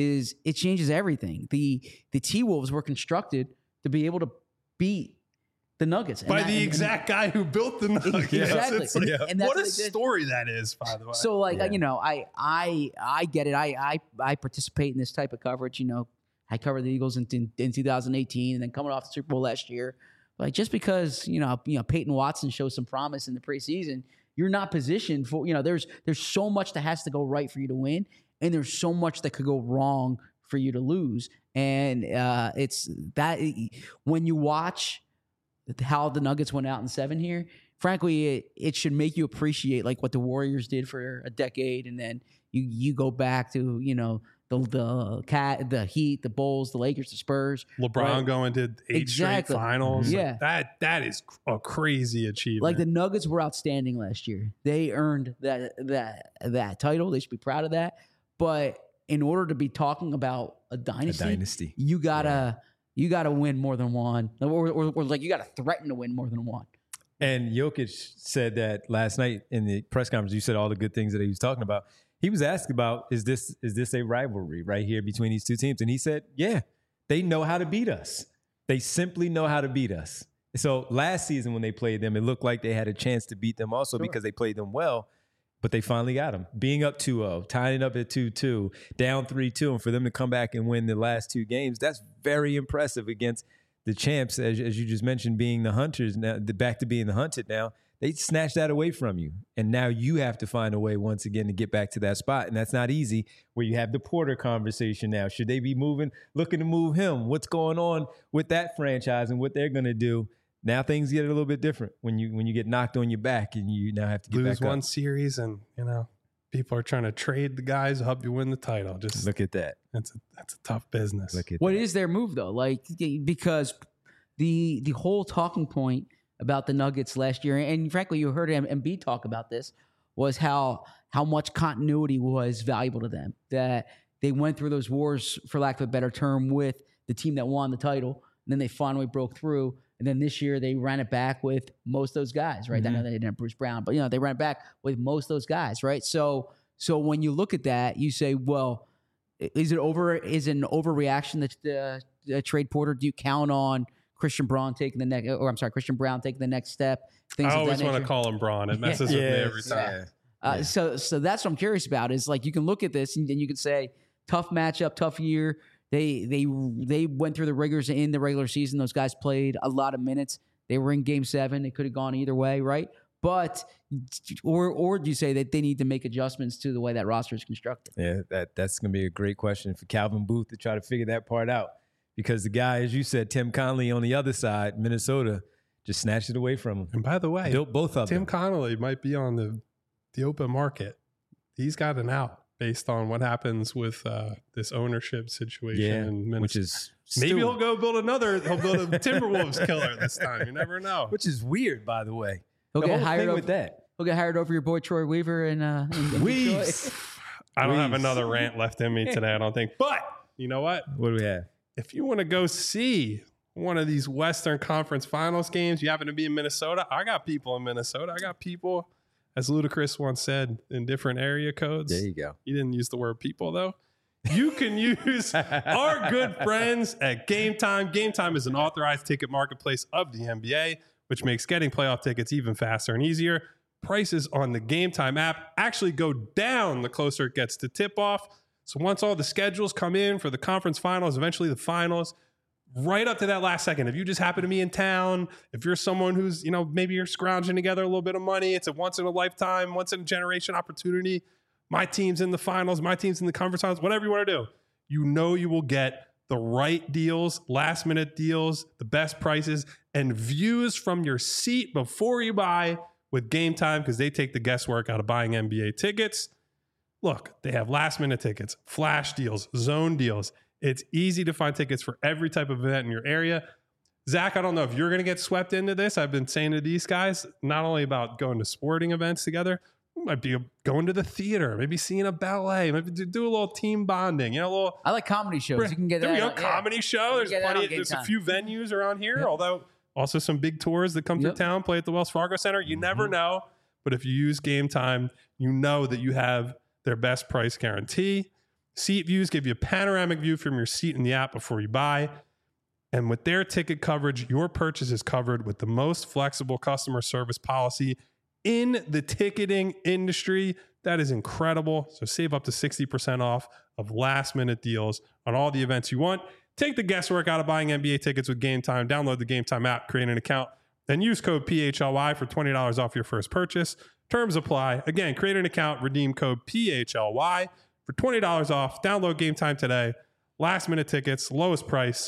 it changes everything. The T-Wolves were constructed to be able to beat the Nuggets. By the exact guy who built the Nuggets. Exactly. Like, and that's what a story that is, by the way. So you know, I get it. I participate in this type of coverage. You know, I covered the Eagles in 2018 and then coming off the Super Bowl last year. Like, just because, you know, Peyton Watson shows some promise in the preseason, you're not positioned for, you know, there's so much that has to go right for you to win, and there's so much that could go wrong for you to lose. And it's that when you watch how the Nuggets went out in 7 here, frankly, it should make you appreciate like what the Warriors did for a decade, and then you go back to, you know, the Heat, the Bulls, the Lakers, the Spurs. LeBron going to 8 straight finals. Yeah. Like that is a crazy achievement. Like the Nuggets were outstanding last year. They earned that title. They should be proud of that. But in order to be talking about a dynasty. You gotta win more than one, or like you gotta threaten to win more than one. And Jokic said that last night in the press conference. You said all the good things that he was talking about. He was asked about, is this a rivalry right here between these two teams? And he said, yeah, they know how to beat us. They simply know how to beat us. So last season when they played them, it looked like they had a chance to beat them also because they played them well, but they finally got them. Being up 2-0, tying it up at 2-2, down 3-2, and for them to come back and win the last 2 games, that's very impressive against the champs, as you just mentioned, being the hunters, now back to being the hunted now. They snatched that away from you. And now you have to find a way once again to get back to that spot. And that's not easy, where you have the Porter conversation now. Should they be looking to move him? What's going on with that franchise and what they're going to do? Now things get a little bit different when you get knocked on your back and you now have to get lose back up. one series, and you know people are trying to trade the guys to help you win the title. Just look at that. That's a tough business. What is their move though? Like, because the whole talking point about the Nuggets last year, and frankly, you heard Embiid talk about this, was how much continuity was valuable to them. That they went through those wars, for lack of a better term, with the team that won the title, and then they finally broke through. And then this year they ran it back with most of those guys, right? Mm-hmm. I know they didn't have Bruce Brown, but they ran it back with most of those guys, right? So when you look at that, you say, well, is it an overreaction that trade Porter? Do you count on Christian Brown taking the next step. Things I of always that want to nature. call him Braun. It messes with me every time. Yeah. So that's what I'm curious about. Is like you can look at this and you can say tough matchup, tough year. They went through the rigors in the regular season. Those guys played a lot of minutes. They were in Game 7. It could have gone either way, right? But or do you say that they need to make adjustments to the way that roster is constructed? Yeah, that's going to be a great question for Calvin Booth to try to figure that part out. Because the guy, as you said, Tim Connolly on the other side, Minnesota, just snatched it away from him. And by the way, Built both of Tim them. Connolly might be on the open market. He's got an out based on what happens with this ownership situation in Minnesota. Which is Maybe he'll build a Timberwolves killer this time. You never know. which is weird, by the way. He'll The get whole hired thing over with that. He'll get hired over your boy Troy Weaver in Weaves. Detroit. I don't have Please. another rant left in me today, I don't think. But you know what? What do we have? If you want to go see one of these Western Conference Finals games, you happen to be in Minnesota, I got people in Minnesota. I got people, as Ludacris once said, in different area codes. There you go. He didn't use the word people, though. You can use our good friends at Game Time. Game Time is an authorized ticket marketplace of the NBA, which makes getting playoff tickets even faster and easier. Prices on the Game Time app actually go down the closer it gets to tip-off. So once all the schedules come in for the conference finals, eventually the finals, right up to that last second, if you just happen to be in town, if you're someone who's, maybe you're scrounging together a little bit of money, it's a once-in-a-lifetime, once-in-a-generation opportunity. My team's in the finals, my team's in the conference finals, whatever you want to do. You know you will get the right deals, last-minute deals, the best prices, and views from your seat before you buy with Game Time because they take the guesswork out of buying NBA tickets. Look, they have last-minute tickets, flash deals, zone deals. It's easy to find tickets for every type of event in your area. Zach, I don't know if you're going to get swept into this. I've been saying to these guys, not only about going to sporting events together, we might be going to the theater, maybe seeing a ballet, maybe do a little team bonding, a little. I like comedy shows. You can get there that. we go, on- comedy show. There's get that on plenty. Game There's a Time. few venues around here, although also some big tours that come through town, play at the Wells Fargo Center. You never know, but if you use Game Time, you know that you have their best price guarantee. Seat views give you a panoramic view from your seat in the app before you buy. And with their ticket coverage, your purchase is covered with the most flexible customer service policy in the ticketing industry. That is incredible. So save up to 60% off of last-minute deals on all the events you want. Take the guesswork out of buying NBA tickets with Game Time. Download the Game Time app, create an account, then use code PHLY for $20 off your first purchase. Terms apply. Again, create an account, redeem code PHLY for $20 off. Download Game Time today. Last-minute tickets, lowest price,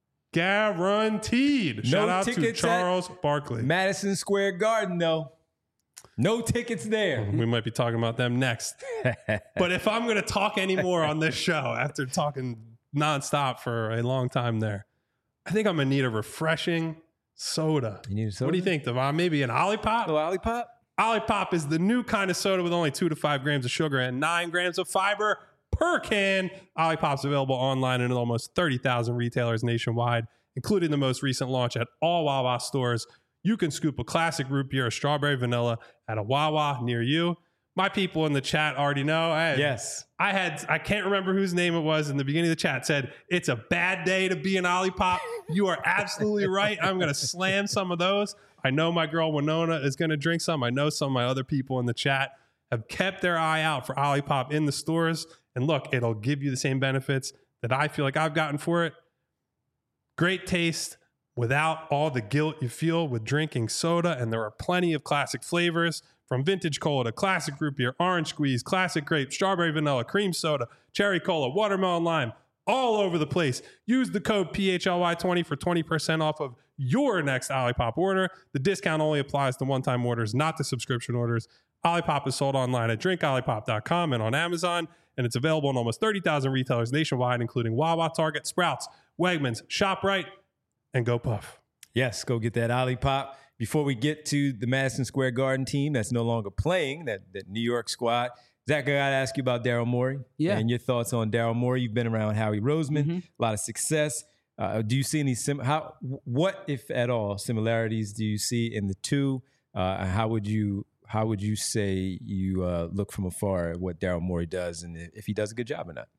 guaranteed. Shout out to tickets Charles Barkley. Madison Square Garden, though. No tickets there. We might be talking about them next. But if I'm going to talk anymore on this show after talking nonstop for a long time there, I think I'm going to need a refreshing soda. You need a soda? What do you think, Devon? Maybe an Olipop? No Olipop? Olipop is the new kind of soda with only 2 to 5 grams of sugar and 9 grams of fiber per can. Olipop's available online in almost 30,000 retailers nationwide, including the most recent launch at all Wawa stores. You can scoop a classic root beer or strawberry vanilla at a Wawa near you. My people in the chat already know. Yes. I can't remember whose name it was in the beginning of the chat, said, it's a bad day to be an Olipop. You are absolutely right. I'm going to slam some of those. I know my girl Winona is going to drink some. I know some of my other people in the chat have kept their eye out for Olipop in the stores. And look, it'll give you the same benefits that I feel like I've gotten for it. Great taste without all the guilt you feel with drinking soda. And there are plenty of classic flavors, from vintage cola to classic root beer, orange squeeze, classic grape, strawberry vanilla, cream soda, cherry cola, watermelon lime, all over the place. Use the code PHLY20 for 20% off of your next Olipop order. The discount only applies to one-time orders, not to subscription orders. Olipop is sold online at drinkolipop.com and on Amazon, and it's available in almost 30,000 retailers nationwide, including Wawa, Target, Sprouts, Wegmans, ShopRite, and Go Puff. Yes, go get that Olipop. Before we get to the Madison Square Garden team that's no longer playing, that New York squad, Zach, I got to ask you about Daryl Morey. Yeah. And your thoughts on Daryl Morey. You've been around Howie Roseman, a lot of success. Do you see any, what, if at all, similarities do you see in the two? How would you say you look from afar at what Daryl Morey does and if he does a good job or not?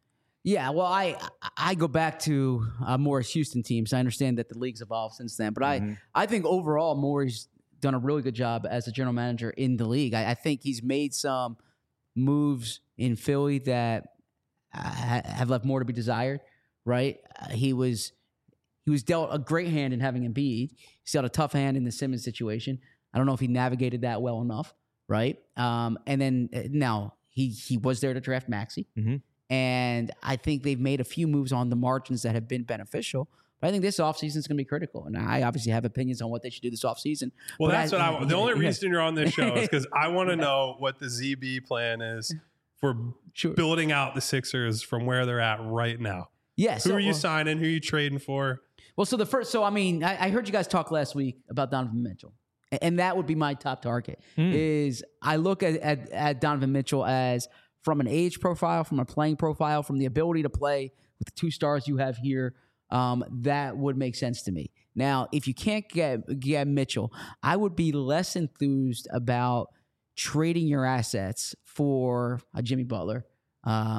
Yeah, well, I go back to Morris Houston teams. I understand that the league's evolved since then, but I think overall Morris done a really good job as a general manager in the league. I think he's made some moves in Philly that have left more to be desired. Right? He was dealt a great hand in having Embiid. He's dealt a tough hand in the Simmons situation. I don't know if he navigated that well enough. Right? And then now he was there to draft Maxey. Mm-hmm. And I think they've made a few moves on the margins that have been beneficial. But I think this offseason is going to be critical. And I obviously have opinions on what they should do this offseason. Well, but that's what I want. The only reason you're on this show is because I want to know what the ZB plan is for building out the Sixers from where they're at right now. Yeah. Who are you signing? Who are you trading for? Well, I heard you guys talk last week about Donovan Mitchell. And that would be my top target. Is I look at Donovan Mitchell as from an age profile, from a playing profile, from the ability to play with the 2 stars you have here, that would make sense to me. Now, if you can't get Mitchell, I would be less enthused about trading your assets for a Jimmy Butler. I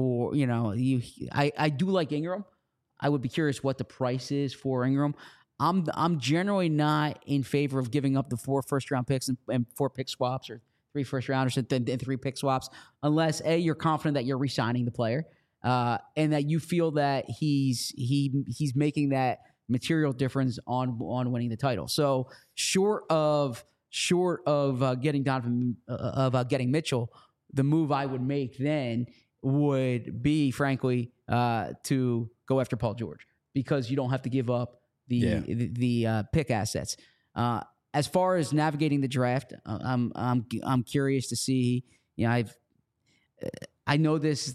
do like Ingram. I would be curious what the price is for Ingram. I'm generally not in favor of giving up the 4 first-round picks and 4 pick swaps or 3 first-rounders and 3 pick swaps, unless A, you're confident that you're re-signing the player, and that you feel that he's making that material difference on winning the title. So short of getting Donovan getting Mitchell, the move I would make then would be, frankly, to go after Paul George, because you don't have to give up the pick assets. As far as navigating the draft, I'm curious to see. I know this.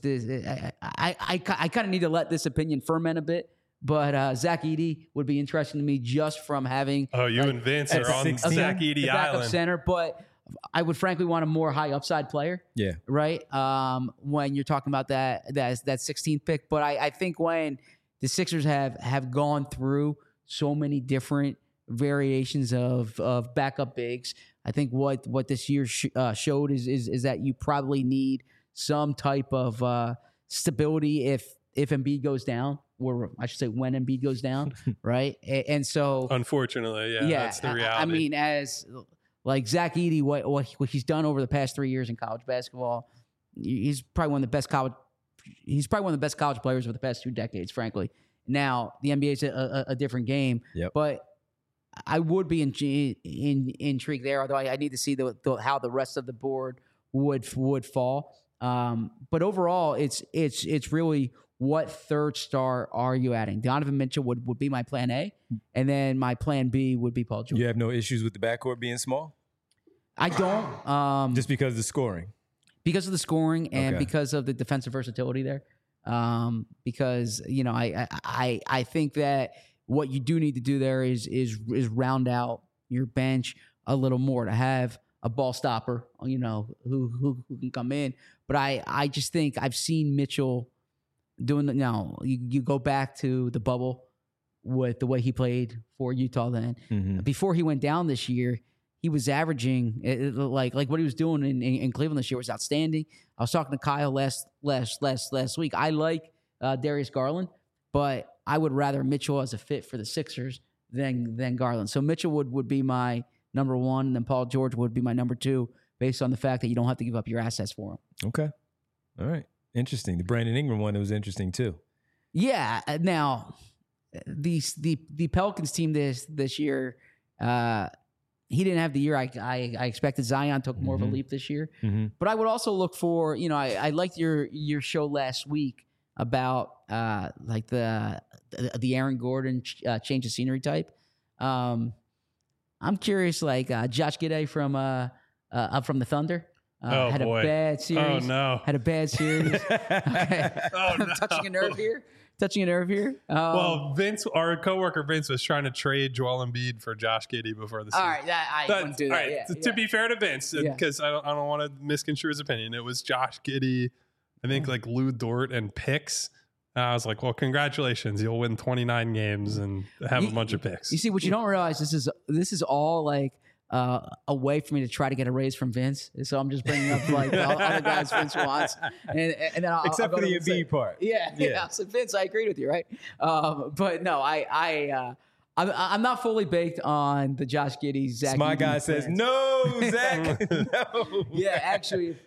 I kind of need to let this opinion ferment a bit. But Zach Edey would be interesting to me just from having. Oh, you and Vince are on Zach Edey Island. Center, but I would frankly want a more high upside player. Yeah. Right. When you're talking about that 16th pick, but I think when the Sixers have gone through so many different variations of backup bigs, I think what this year showed is that you probably need some type of stability if Embiid goes down, or I should say when Embiid goes down, right? And so, unfortunately, that's the reality. I mean, as like Zach Edey, what he's done over the past 3 years in college basketball, he's probably one of the best college players of the past 2 decades, frankly. Now the NBA is a different game, but I would be intrigued there. Although I need to see how the rest of the board would fall. But overall, it's really, what third star are you adding? Donovan Mitchell would be my plan A, and then my plan B would be Paul George. You have no issues with the backcourt being small? I don't. Just because of the scoring? Because of the scoring and because of the defensive versatility there. Because I think that what you do need to do there is round out your bench a little more to have a ball stopper, who can come in. But I just think I've seen Mitchell doing that. Now you go back to the bubble with the way he played for Utah then. Mm-hmm. Before he went down this year, he was averaging like what he was doing in Cleveland this year was outstanding. I was talking to Kyle last week. I like Darius Garland, but I would rather Mitchell as a fit for the Sixers than Garland. So Mitchell would be my number 1, and then Paul George would be my number 2, based on the fact that you don't have to give up your assets for him. Okay. All right. Interesting. The Brandon Ingram one was interesting too. Yeah. Now, the Pelicans team this year, he didn't have the year I expected. Zion took more of a leap this year. Mm-hmm. But I would also look for, I liked your show last week about like the Aaron Gordon change of scenery type. I'm curious, like Josh Giddey from the Thunder. Had a bad series. Oh, no. Had a bad series. Okay. Oh, no. Touching a nerve here. Well, Vince, our coworker Vince, was trying to trade Joel Embiid for Josh Giddey before the season. All right, I wouldn't do that. All right, to be fair to Vince, because I don't want to misconstrue his opinion, it was Josh Giddey, I think like Lou Dort and picks. I was like, well, congratulations, you'll win 29 games and have a bunch of picks. You see, what you don't realize, this is all like a way for me to try to get a raise from Vince. So I'm just bringing up like all the guys Vince wants, and then I'll Except I'll for go the to Vince. Embiid part. Yeah. So Vince, I agreed with you, right? But no, I'm not fully baked on the Josh Giddey, Zach. My Edey guy says no, Zach. No. Yeah, actually,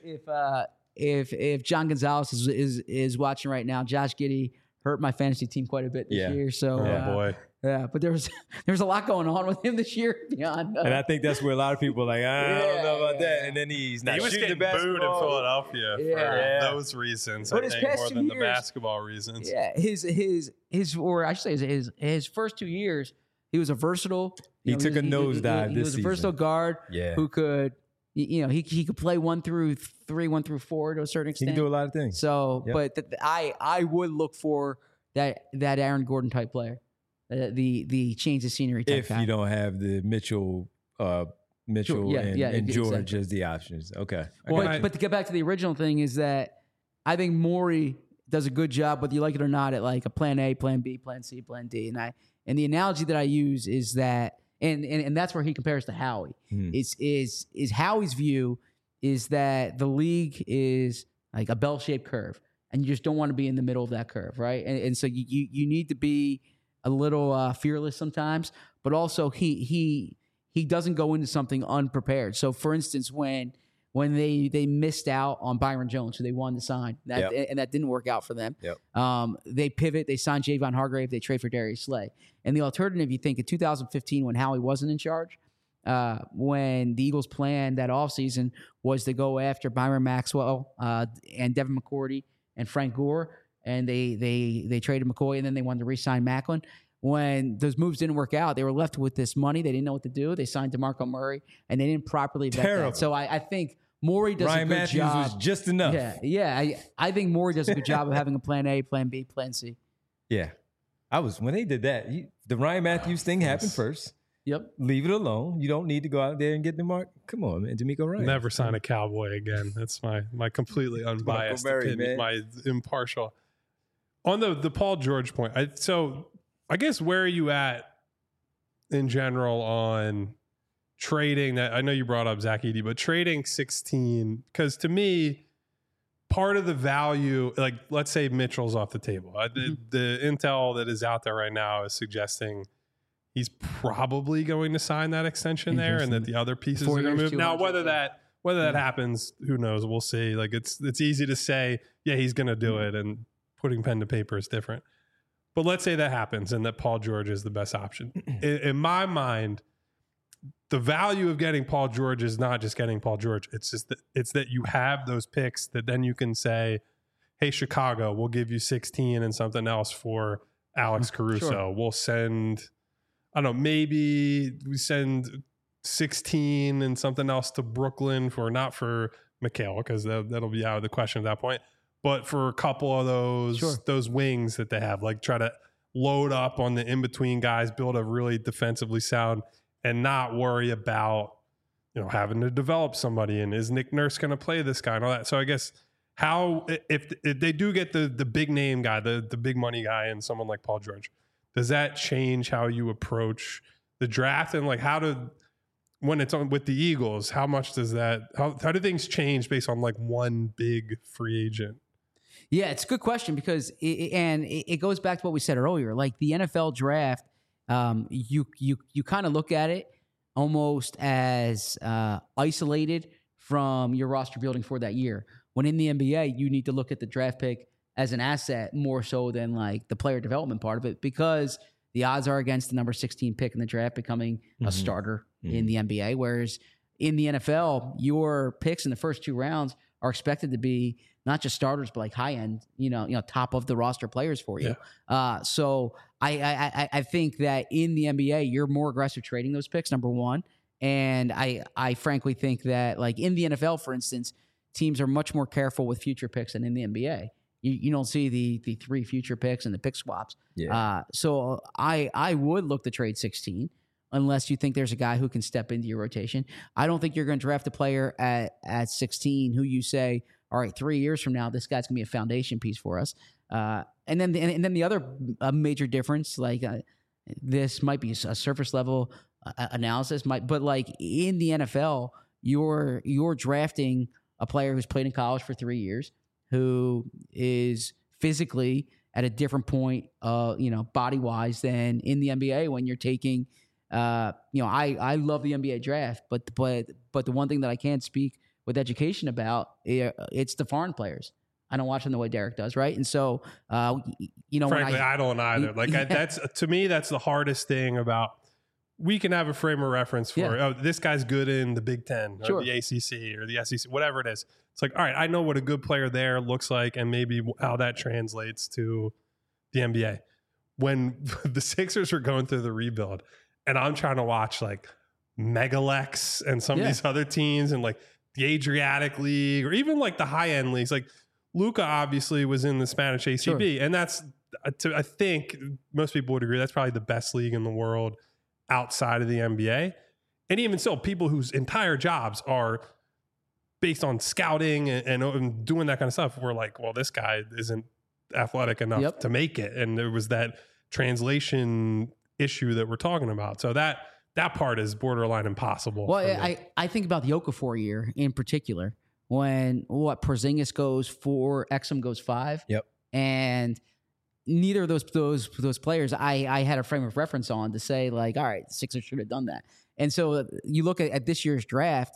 if John Gonzalez is watching right now, Josh Giddey hurt my fantasy team quite a bit this year. So, boy. Yeah, but there's a lot going on with him this year beyond. And I think that's where a lot of people are like, I don't know about that. And then he's not He was shooting the getting booed in basketball. Philadelphia Yeah. for those reasons, But I his think, past more 2 than the years- basketball reasons. Yeah, his or I should say his first 2 years, he was a versatile. He took a nosedive He this was a versatile season. guard Yeah. who could, he could play 1 through 3, 1 through 4 to a certain He extent. can do a lot of things. So, Yep. but I would look for that Aaron Gordon type player, the change of scenery type If guy. you don't have the Mitchell Yeah, and George exactly. as the options. Okay. But to get back to the original thing is that I think Morey does a good job, whether you like it or not, at like a plan A, plan B, plan C, plan D. And the analogy that I use is that, and that's where he compares to Howie. Is Howie's view is that the league is like a bell-shaped curve, and you just don't want to be in the middle of that curve, right? And so you need to be a little fearless sometimes, but also he doesn't go into something unprepared. So, for instance, when they missed out on Byron Jones, who they wanted to sign, and that didn't work out for them. They pivot, they sign Javon Hargrave, they trade for Darius Slay. And the alternative, you think, in 2015, when Howie wasn't in charge, when the Eagles' plan that offseason was to go after Byron Maxwell and Devin McCourty and Frank Gore, and they traded McCoy, and then they wanted to re-sign Macklin. When those moves didn't work out, they were left with this money. They didn't know what to do. They signed DeMarco Murray, and they didn't properly vet Terrible. that. So I think Morey does Ryan a good Matthews job. was just enough. I think Morey does a good job of having a plan A, plan B, plan C. Yeah. When they did that, the Ryan Matthews thing happened first. Yep. Leave it alone. You don't need to go out there and get the mark. Come on, man. D'Amico Ryan. Never sign a Cowboy again. That's my completely unbiased Murray, opinion, man. my impartial. On the Paul George point, I guess where are you at in general on trading that? I know you brought up Zach Edey, but trading 16, because to me, part of the value, like let's say Mitchell's off the table. The intel that is out there right now is suggesting he's probably going to sign that extension there, and that the other pieces 4 are going to years, move. Now, 200, whether that happens, who knows? We'll see. Like it's easy to say, yeah, he's going to do it, and putting pen to paper is different. But let's say that happens and that Paul George is the best option. In my mind, the value of getting Paul George is not just getting Paul George. It's just that you have those picks that then you can say, hey, Chicago, we'll give you 16 and something else for Alex Caruso. Sure. We'll send, I don't know, maybe we send 16 and something else to Brooklyn not for Mikal, because that'll be out of the question at that point. But for a couple of those wings that they have, like try to load up on the in-between guys, build a really defensively sound, and not worry about, having to develop somebody. And is Nick Nurse going to play this guy and all that? So I guess if they do get the big name guy, the big money guy, and someone like Paul George, does that change how you approach the draft? And like when it's on with the Eagles, how much does that, how do things change based on like one big free agent? Yeah, it's a good question because it goes back to what we said earlier. Like the NFL draft, you kind of look at it almost as isolated from your roster building for that year. When in the NBA, you need to look at the draft pick as an asset more so than like the player development part of it, because the odds are against the number 16 pick in the draft becoming a starter in the NBA. Whereas in the NFL, your picks in the first 2 rounds are expected to be not just starters, but like high end, top of the roster players for you. Yeah. So I think that in the NBA, you're more aggressive trading those picks, number one. And I frankly think that like in the NFL, for instance, teams are much more careful with future picks than in the NBA. You don't see the 3 future picks and the pick swaps. Yeah. So I would look to trade 16 unless you think there's a guy who can step into your rotation. I don't think you're going to draft a player at 16 who you say, all right, 3 years from now, this guy's going to be a foundation piece for us. And then the other major difference, like this might be a surface level analysis. But like in the NFL, you're drafting a player who's played in college for 3 years, who is physically at a different point, body wise than in the NBA when you're taking. I love the NBA draft, but the one thing that I can't speak with education about, it's the foreign players. I don't watch them the way Derek does, right? And so, frankly, I don't either. That's to me, that's the hardest thing about. We can have a frame of reference for this guy's good in the Big Ten or the ACC or the SEC, whatever it is. It's like, all right, I know what a good player there looks like, and maybe how that translates to the NBA. When the Sixers are going through the rebuild, and I'm trying to watch like Megalex and some of these other teams, and like the Adriatic League, or even like the high end leagues, like Luka obviously was in the Spanish ACB, and that's I think most people would agree that's probably the best league in the world outside of the NBA. And even so, people whose entire jobs are based on scouting and doing that kind of stuff, we're like, well, this guy isn't athletic enough to make it. And there was that translation issue that we're talking about. So that part is borderline impossible. Well, I think about the Okafor year in particular, when Porzingis goes 4, Exum goes 5. Yep. And neither of those players I had a frame of reference on to say like, all right, the Sixers should have done that. And so you look at this year's draft,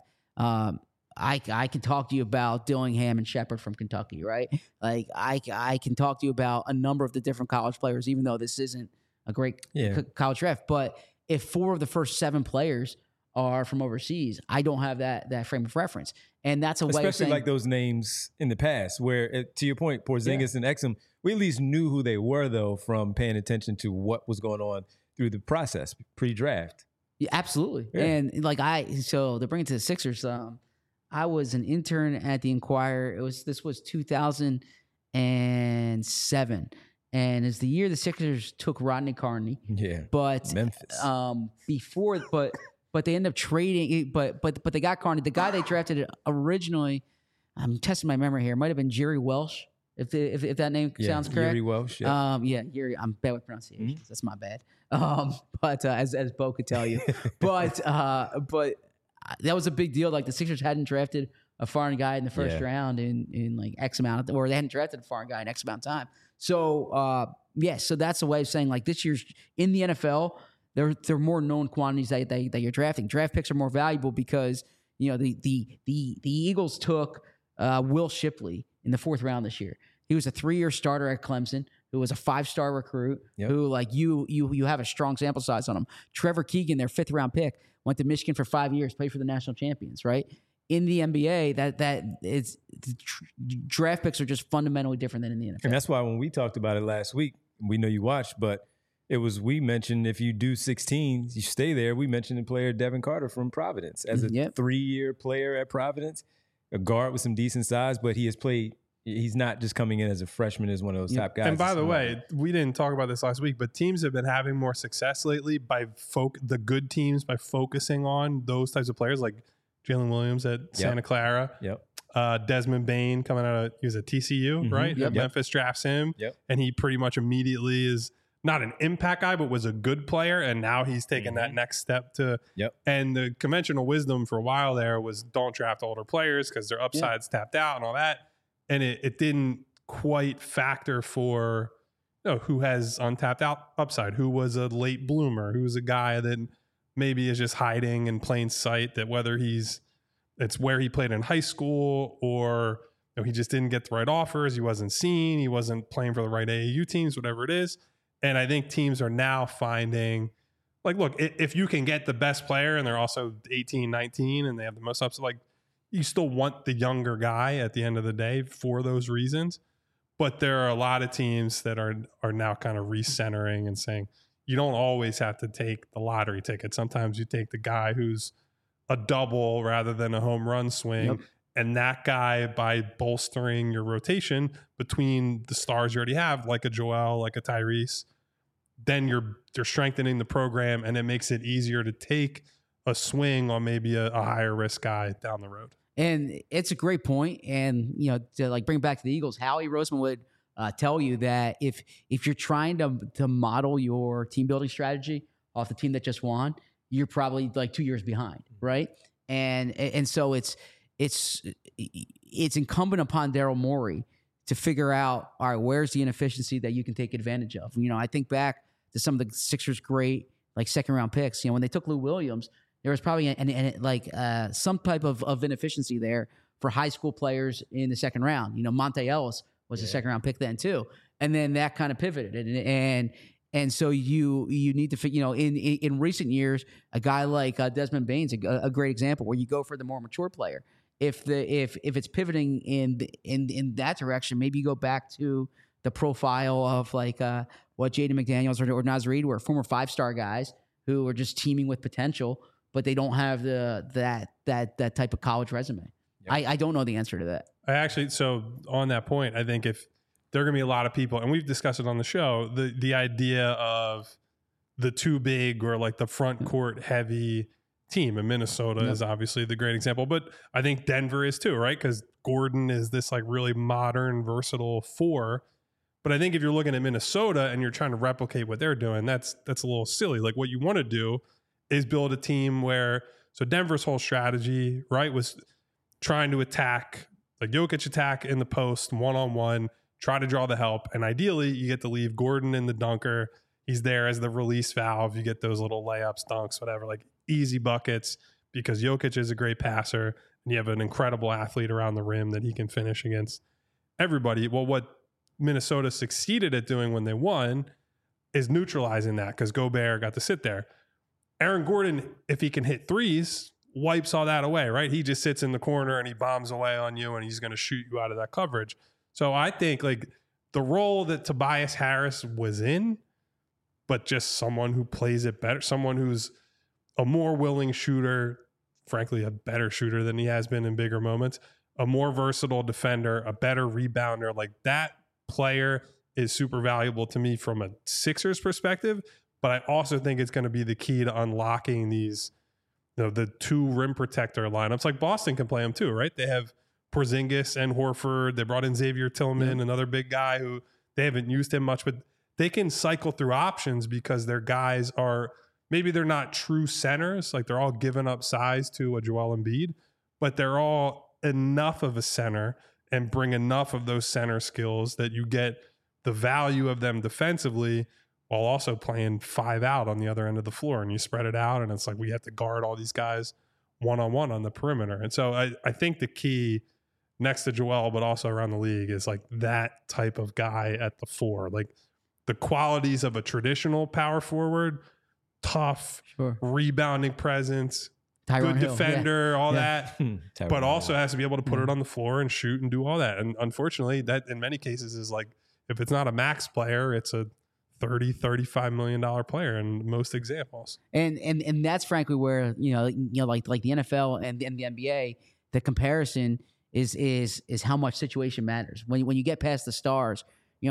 I can talk to you about Dillingham and Shepard from Kentucky, right? Like I can talk to you about a number of the different college players, even though this isn't a great college draft. But if 4 of the first 7 players are from overseas, I don't have that frame of reference. And that's a way of saying, especially like those names in the past where, to your point, Porzingis and Exum, we at least knew who they were, though, from paying attention to what was going on through the process pre-draft. Yeah, absolutely. Yeah. And like so to bring it to the Sixers, I was an intern at the Inquirer. This was 2007. And it's the year the Sixers took Rodney Carney. Yeah. But Memphis. But they end up trading. But they got Carney. The guy they drafted originally, I'm testing my memory here, might have been Jerry Welsh, if that name sounds correct. Jerry Welsh. Yeah. Jerry. I'm bad with pronunciations. Mm-hmm. That's my bad. But as Bo could tell you, but that was a big deal. Like the Sixers hadn't drafted a foreign guy in the first round in like X amount, or they hadn't drafted a foreign guy in X amount of time. So so that's a way of saying like this year's in the NFL. There are more known quantities that you're drafting. Draft picks are more valuable because the Eagles took Will Shipley in the 4th round this year. He was a 3-year starter at Clemson, who was a 5-star recruit, who like you have a strong sample size on him. Trevor Keegan, their 5th round pick, went to Michigan for 5 years, played for the national champions, right? In the NBA, draft picks are just fundamentally different than in the NFL. And that's why when we talked about it last week, we know you watched, but we mentioned if you do 16, you stay there. We mentioned the player Devin Carter from Providence as a 3-year player at Providence, a guard with some decent size, but he has played. He's not just coming in as a freshman as one of those top guys. And by the way, we didn't talk about this last week, but teams have been having more success lately by the good teams by focusing on those types of players like Jalen Williams at Santa Clara. Desmond Bain coming out of, he was at TCU, right? Memphis drafts him, and he pretty much immediately is not an impact guy, but was a good player, and now he's taken that next step to. And the conventional wisdom for a while there was don't draft older players because their upside's tapped out and all that, and it didn't quite factor for who has untapped upside, who was a late bloomer, who's a guy that maybe is just hiding in plain sight, that whether it's where he played in high school or he just didn't get the right offers, he wasn't seen, he wasn't playing for the right AAU teams, whatever it is. And I think teams are now finding, like, look, if you can get the best player and they're also 18, 19 and they have the most upside, like, you still want the younger guy at the end of the day for those reasons. But there are a lot of teams that are now kind of recentering and saying, you don't always have to take the lottery ticket. Sometimes you take the guy who's a double rather than a home run swing. And that guy, by bolstering your rotation between the stars you already have, like a Joel, like a Tyrese, then you're strengthening the program, and it makes it easier to take a swing on maybe a higher risk guy down the road. And it's a great point. And, to like bring back to the Eagles, Howie Roseman would tell you that if you're trying to model your team building strategy off the team that just won, you're probably like 2 years behind, right? And so it's incumbent upon Daryl Morey to figure out, all right, where's the inefficiency that you can take advantage of? I think back to some of the Sixers' great like second round picks. When they took Lou Williams, there was probably some type of inefficiency there for high school players in the second round. Monte Ellis was a second round pick then too, and then that kind of pivoted, and so you need to in recent years, a guy like Desmond Bane's a great example where you go for the more mature player. If it's pivoting in that direction, maybe you go back to the profile of like what Jaden McDaniels or Naz Reid were, former 5-star guys who are just teaming with potential, but they don't have that type of college resume. Yep. I don't know the answer to that. So on that point, I think if there are going to be a lot of people, and we've discussed it on the show, the idea of the too big or like the front court heavy team, and Minnesota is obviously the great example, but I think Denver is too, right? Because Gordon is this like really modern, versatile 4. But I think if you're looking at Minnesota and you're trying to replicate what they're doing, that's a little silly. Like what you want to do is build a team where, so Denver's whole strategy, right, was trying to attack, like Jokic attack in the post, one-on-one, try to draw the help. And ideally you get to leave Gordon in the dunker. He's there as the release valve. You get those little layups, dunks, whatever, like easy buckets, because Jokic is a great passer and you have an incredible athlete around the rim that he can finish against everybody. Well, what Minnesota succeeded at doing when they won is neutralizing that, because Gobert got to sit there. Aaron Gordon, if he can hit threes, wipes all that away, right? He just sits in the corner and he bombs away on you and he's going to shoot you out of that coverage. So I think like the role that Tobias Harris was in, but just someone who plays it better, someone who's a more willing shooter, frankly, a better shooter than he has been in bigger moments, a more versatile defender, a better rebounder, like that player is super valuable to me from a Sixers perspective. But I also think it's going to be the key to unlocking these, the 2 rim protector lineups. Like Boston can play them too, right? They have Porzingis and Horford. They brought in Xavier Tillman, another big guy who they haven't used him much, but they can cycle through options because their guys are, maybe they're not true centers, like they're all giving up size to a Joel Embiid, but they're all enough of a center and bring enough of those center skills that you get the value of them defensively while also playing 5 out on the other end of the floor. And you spread it out and it's like we have to guard all these guys one-on-one on the perimeter. And so I think the key next to Joel, but also around the league, is like that type of guy at the 4. Like the qualities of a traditional power forward, tough, rebounding presence, Tyronn good Hill, defender, all that, but also Hill. has to be able to put it on the floor and shoot and do all that. And unfortunately, that in many cases is like, if it's not a max player, it's a $30-35 million player in most examples. And that's frankly where like the NFL and the NBA, the comparison is how much situation matters. When you get past the stars,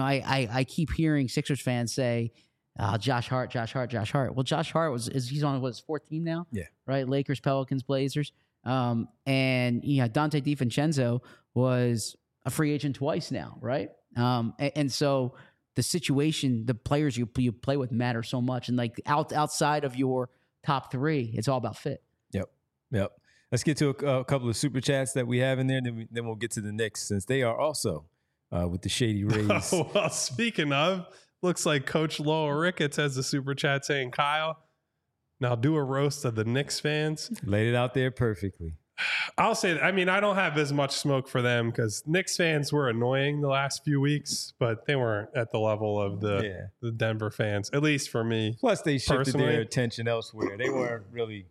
I keep hearing Sixers fans say, Josh Hart. Well, Josh Hart he's on his 4th team now? Yeah. Right? Lakers, Pelicans, Blazers. And Dante DiVincenzo was a free agent twice now, right? And so the situation, the players you play with matter so much. And like outside of your top 3, it's all about fit. Yep. Let's get to a couple of super chats that we have in there. Then we'll get to the Knicks, since they are also with the Shady Rays. Well, speaking of, looks like Coach Lowell Ricketts has the super chat saying, Kyle, now do a roast of the Knicks fans. Laid it out there perfectly. I'll say that. I mean, I don't have as much smoke for them because Knicks fans were annoying the last few weeks, but they weren't at the level of the Denver fans, at least for me. Plus, they shifted personally. their attention elsewhere. They weren't really,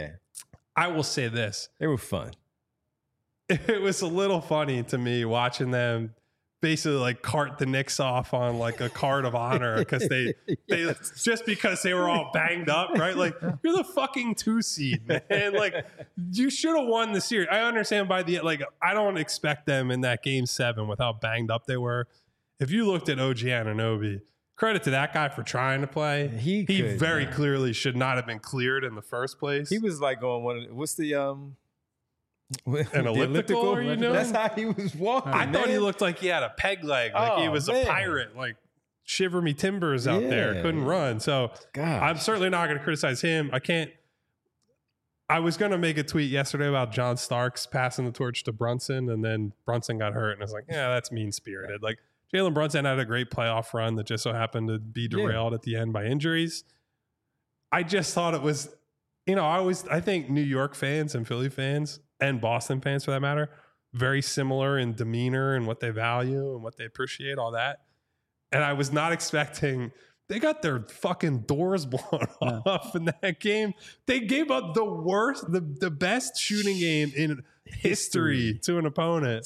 I will say this. They were fun. It was a little funny to me watching them basically like cart the Knicks off on like a card of honor because they just because they were all banged up, right? Like, you're the fucking 2 seed, man. Like, you should have won the series. I understand by the like, I don't expect them in that game 7 with how banged up they were. If you looked at OG Anunoby, credit to that guy for trying to play. He very clearly should not have been cleared in the first place. He was like on one of what's the an elliptical? Are you doing? That's how he was walking. I thought he looked like he had a peg leg, like he was a pirate, like shiver me timbers out there, couldn't run. So God. I'm certainly not going to criticize him. I can't I was going to make a tweet yesterday about John Starks passing the torch to Brunson, and then Brunson got hurt, and I was like, yeah, that's mean-spirited. Like, Jalen Brunson had a great playoff run that just so happened to be derailed at the end by injuries. I just thought it was, I think New York fans and Philly fans and Boston fans, for that matter, very similar in demeanor and what they value and what they appreciate, all that. And I was not expecting... They got their fucking doors blown off in that game. They gave up the worst, the best shooting game in history to an opponent.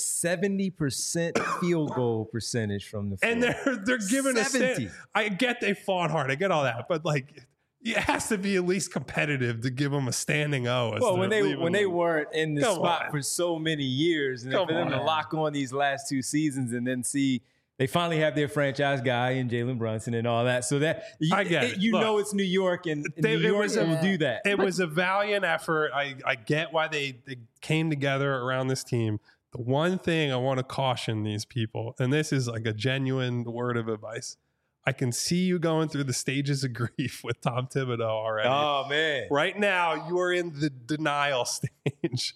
70% field goal percentage from the floor. And they're giving 70. I get they fought hard. I get all that. But like, it has to be at least competitive to give them a standing O. Well, when they weren't in the spot for so many years, and for them to lock on these last 2 seasons and then see they finally have their franchise guy in Jalen Brunson and all that. So that I get it. Look, it's New York, and New York will do that. It was a valiant effort. I get why they came together around this team. The one thing I want to caution these people, and this is like a genuine word of advice. I can see you going through the stages of grief with Tom Thibodeau already. Oh, man. Right now, you are in the denial stage.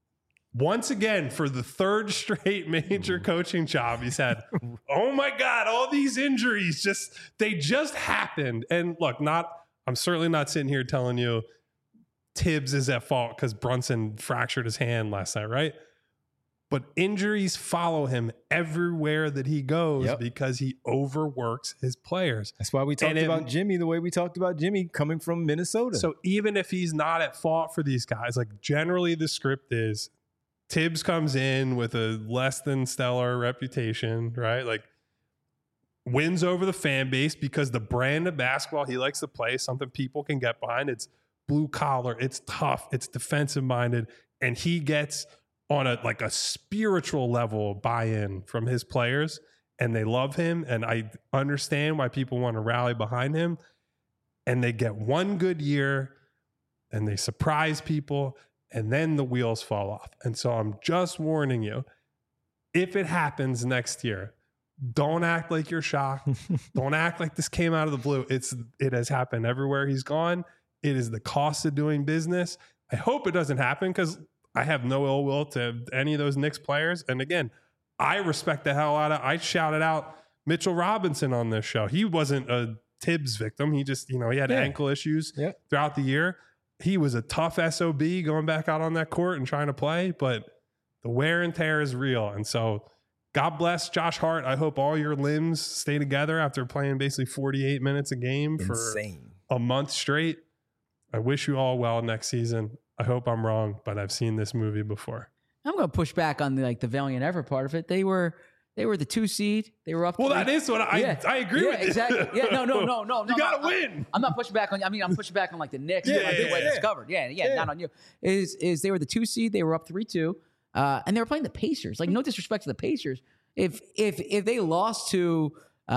Once again, for the 3rd straight major coaching job he's had, oh my God, all these injuries they just happened. And look, I'm certainly not sitting here telling you Tibbs is at fault because Brunson fractured his hand last night, right? But injuries follow him everywhere that he goes because he overworks his players. That's why we talked about Jimmy the way we talked about Jimmy coming from Minnesota. So even if he's not at fault for these guys, like generally the script is Tibbs comes in with a less than stellar reputation, right? Like wins over the fan base because the brand of basketball he likes to play is something people can get behind. It's blue collar, it's tough, it's defensive minded, and he gets on a spiritual level buy-in from his players, and they love him, and I understand why people want to rally behind him. And they get one good year and they surprise people, and then the wheels fall off. And so I'm just warning you, if it happens next year, don't act like you're shocked. Don't act like this came out of the blue. It has happened everywhere he's gone. It is the cost of doing business. I hope it doesn't happen because I have no ill will to any of those Knicks players. And again, I respect the hell out of, I shouted out Mitchell Robinson on this show. He wasn't a Tibbs victim. He just, he had ankle issues throughout the year. He was a tough SOB going back out on that court and trying to play, but the wear and tear is real. And so God bless Josh Hart. I hope all your limbs stay together after playing basically 48 minutes a game for a month straight. I wish you all well next season. I hope I'm wrong, but I've seen this movie before. I'm going to push back on the valiant effort part of it. They were the 2 seed. They were up. Well, that is what I agree with. Exactly. Yeah, no. You got to win. I'm not pushing back on. I'm pushing back on the Knicks. The way it's covered. Yeah. Not on you. Is they were the 2 seed. They were up 3-2, and they were playing the Pacers. Like, no disrespect to the Pacers. If they lost to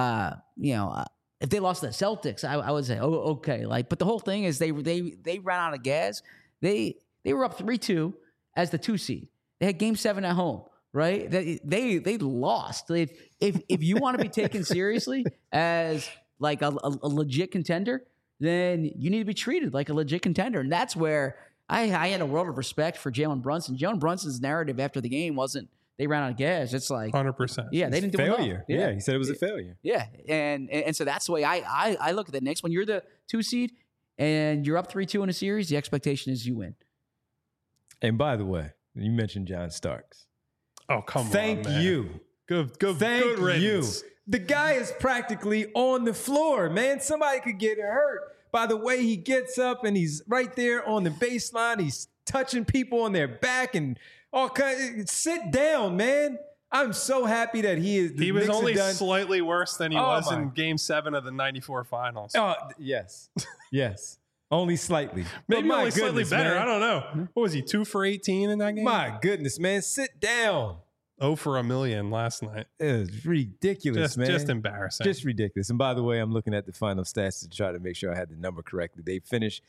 if they lost to the Celtics, I would say, oh, okay. But the whole thing is they ran out of gas. They were up 3-2 as the 2 seed. They had Game 7 at home. Right? They lost. If you want to be taken seriously as like a legit contender, then you need to be treated like a legit contender. And that's where I had a world of respect for Jalen Brunson. Jalen Brunson's narrative after the game wasn't they ran out of gas. It's like 100%. Yeah, they didn't do failure. Well. Yeah, he said it was a failure. Yeah, and so that's the way I look at the Knicks. When you're the 2 seed and you're up 3-2 in a series, the expectation is you win. And by the way, you mentioned John Starks. Oh, come on, Thank you. Good Thank riddance. you. The guy is practically on the floor, man. Somebody could get hurt by the way he gets up and he's right there on the baseline. He's touching people on their back and all kinds. Sit down, man. I'm so happy that he is. He was only slightly worse than he was in Game 7 of the '94 Finals. Oh, yes. Only slightly. Maybe only slightly better. Man. I don't know. What was he, 2 for 18 in that game? My goodness, man. Sit down. 0 for a million last night. It was ridiculous, man. Just embarrassing. Just ridiculous. And by the way, I'm looking at the final stats to try to make sure I had the number correctly. They finished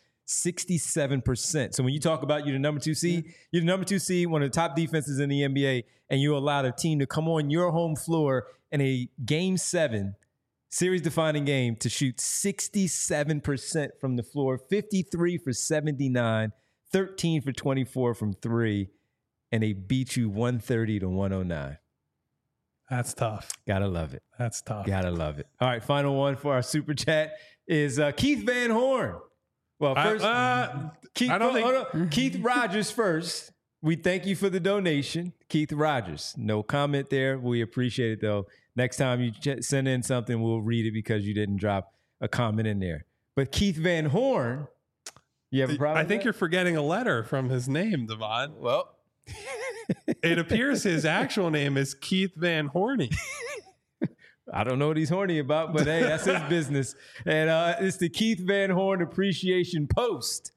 67%. So when you talk about you're the number 2 seed, you're the number 2 seed, one of the top defenses in the NBA, and you allowed a team to come on your home floor in a Game 7 series-defining game to shoot 67% from the floor, 53 for 79, 13 for 24 from 3, and they beat you 130 to 109. That's tough. Gotta love it. That's tough. Gotta love it. All right, final one for our super chat is Keith Van Horn. Well, first, Keith Rogers first. We thank you for the donation, Keith Rogers. No comment there. We appreciate it, though. Next time you send in something, we'll read it because you didn't drop a comment in there. But Keith Van Horn, you have a problem? I think you're forgetting a letter from his name, Devon. Well, it appears his actual name is Keith Van Horny. I don't know what he's horny about, but hey, that's his business. And it's the Keith Van Horn Appreciation Post.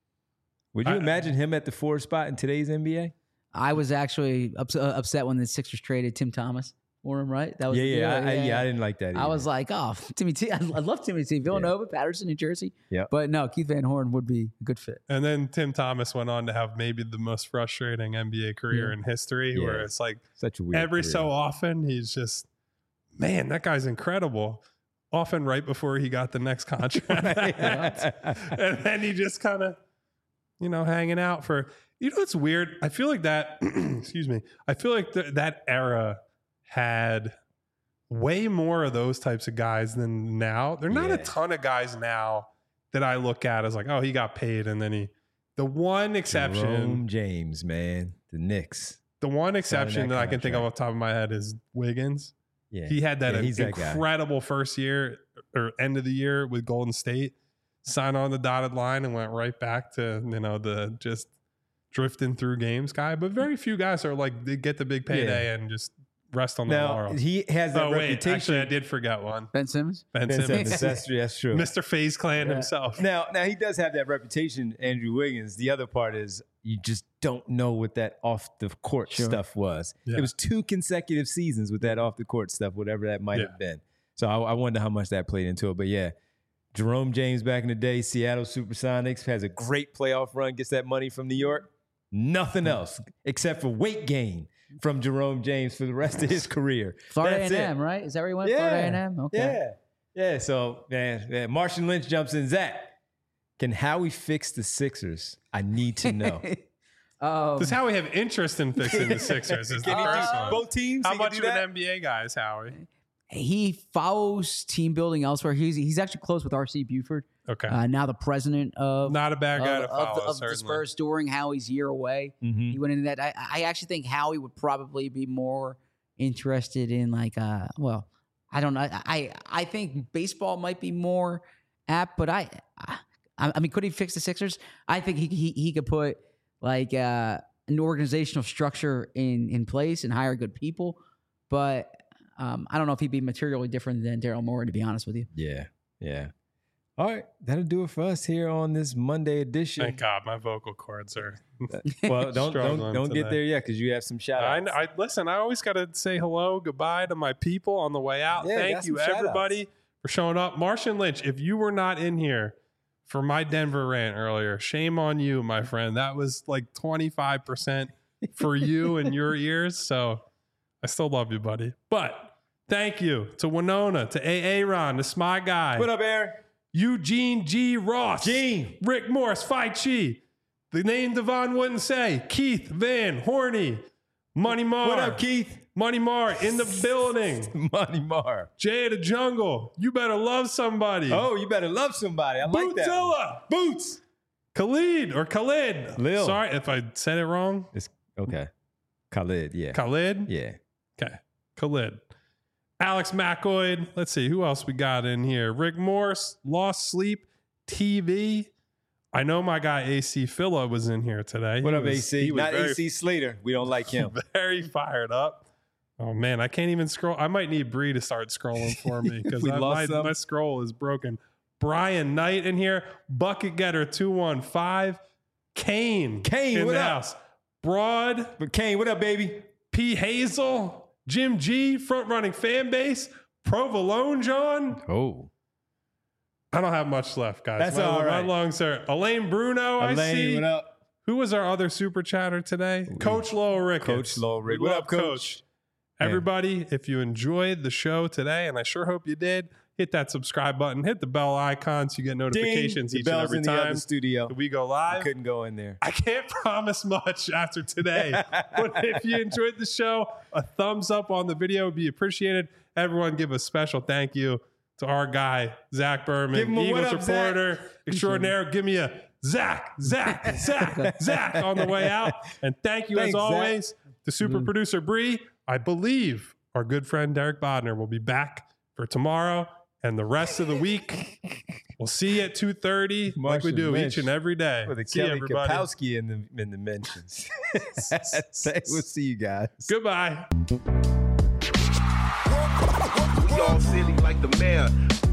Would you imagine him at the 4 spot in today's NBA? I was actually upset when the Sixers traded Tim Thomas for him, right? That was I didn't like that either. I was like, oh, Timmy T. I love Timmy T. Villanova, Patterson, New Jersey. Yeah. But no, Keith Van Horn would be a good fit. And then Tim Thomas went on to have maybe the most frustrating NBA career in history, where it's like such a weird every career. so often he's just, man, that guy's incredible. Often right before he got the next contract. And then he just kind of, hanging out for, it's weird. I feel like that, excuse me. I feel like that era had way more of those types of guys than now. There are not a ton of guys now that I look at as like, oh, he got paid. And then the one exception. Jerome James, man. The Knicks. The one exception that I can think of off the top of my head is Wiggins. Yeah. He had that he's incredible first year or end of the year with Golden State. Signed on the dotted line and went right back to, the just drifting through games guy. But very few guys are like, they get the big payday and just rest on the laurels. He has that reputation. Actually, I did forget one. Ben Simmons? Ben Simmons. That's true. Mr. FaZe Clan himself. Now he does have that reputation, Andrew Wiggins. The other part is you just don't know what that off the court stuff was. Yeah. It was 2 consecutive seasons with that off the court stuff, whatever that might have been. So I wonder how much that played into it. But yeah, Jerome James back in the day, Seattle Supersonics, has a great playoff run, gets that money from New York. Nothing else except for weight gain from Jerome James for the rest of his career. Florida That's A&M, right? Is that where he went? Florida A&M? Okay. Yeah. So, man, Martian Lynch jumps in. Zach, can Howie fix the Sixers? I need to know. Does Howie have interest in fixing the Sixers? Is the first one. Both teams? How much of an NBA guy is Howie? He follows team building elsewhere. He's actually close with R.C. Buford. Okay. Now the president of not a bad guy to follow of the Spurs during Howie's year away. Mm-hmm. He went into that. I actually think Howie would probably be more interested in like I don't know. I think baseball might be more apt, but I mean, could he fix the Sixers? I think he could put like an organizational structure in place and hire good people, but I don't know if he'd be materially different than Daryl Morey, to be honest with you. Yeah. All right, that'll do it for us here on this Monday edition. Thank God, my vocal cords are. Well, don't get there yet because you have some shout outs. I listen. I always got to say hello, goodbye to my people on the way out. Yeah, Thank you, everybody, for showing up. Martian Lynch, if you were not in here for my Denver rant earlier, shame on you, my friend. That was like 25% for you and your ears. So I still love you, buddy. But thank you to Winona, to Aaron, to Smy Guy. What up, Aaron? Eugene G. Ross. Gene. Rick Morris, Phi Chi. The name Devon wouldn't say. Keith Van Horny. Money Mar. What up, Keith? Money Mar in the building. Money Mar. Jay of the Jungle. You better love somebody. Oh, you better love somebody. I like that. Bootzilla. Boots. Khalid. Lil. Sorry if I said it wrong. It's okay. Khalid, yeah. Khalid? Yeah. Okay. Khalid. Alex McCoy. Let's see. Who else we got in here? Rick Morse. Lost Sleep TV. I know my guy AC Philla was in here today. What up, AC? Not very, AC Slater. We don't like him. Very fired up. Oh, man. I can't even scroll. I might need Bree to start scrolling for me because my scroll is broken. Brian Knight in here. Bucket Getter 215. Kane in what the up? house. Broad. But Kane, what up, baby? P. Hazel. Jim G. Front running fan base. Provolone John. Oh. I don't have much left, guys. That's all right. My lungs are. Elaine Bruno, I see. What up? Who was our other super chatter today? Coach Lowell Ricketts. Coach Lowell Ricketts. What up, Coach? Everybody, if you enjoyed the show today, and I sure hope you did, hit that subscribe button, hit the bell icon so you get notifications Ding, each the and bell's every in the time other studio. that we go live. I couldn't go in there. I can't promise much after today, but if you enjoyed the show, a thumbs up on the video would be appreciated. Everyone give a special thank you to our guy, Zach Berman, Give him a what Eagles up, reporter extraordinaire. Give me a Zach on the way out. And thank you, Thanks, as always, Zach. to super producer Bree. I believe our good friend Derek Bodner will be back for tomorrow and the rest of the week. We'll see you at 2:30 like we do Marshall each and every day. With a See you, Kelly everybody. Kapowski in the mentions. We'll see you guys. Goodbye. We all silly like the mayor.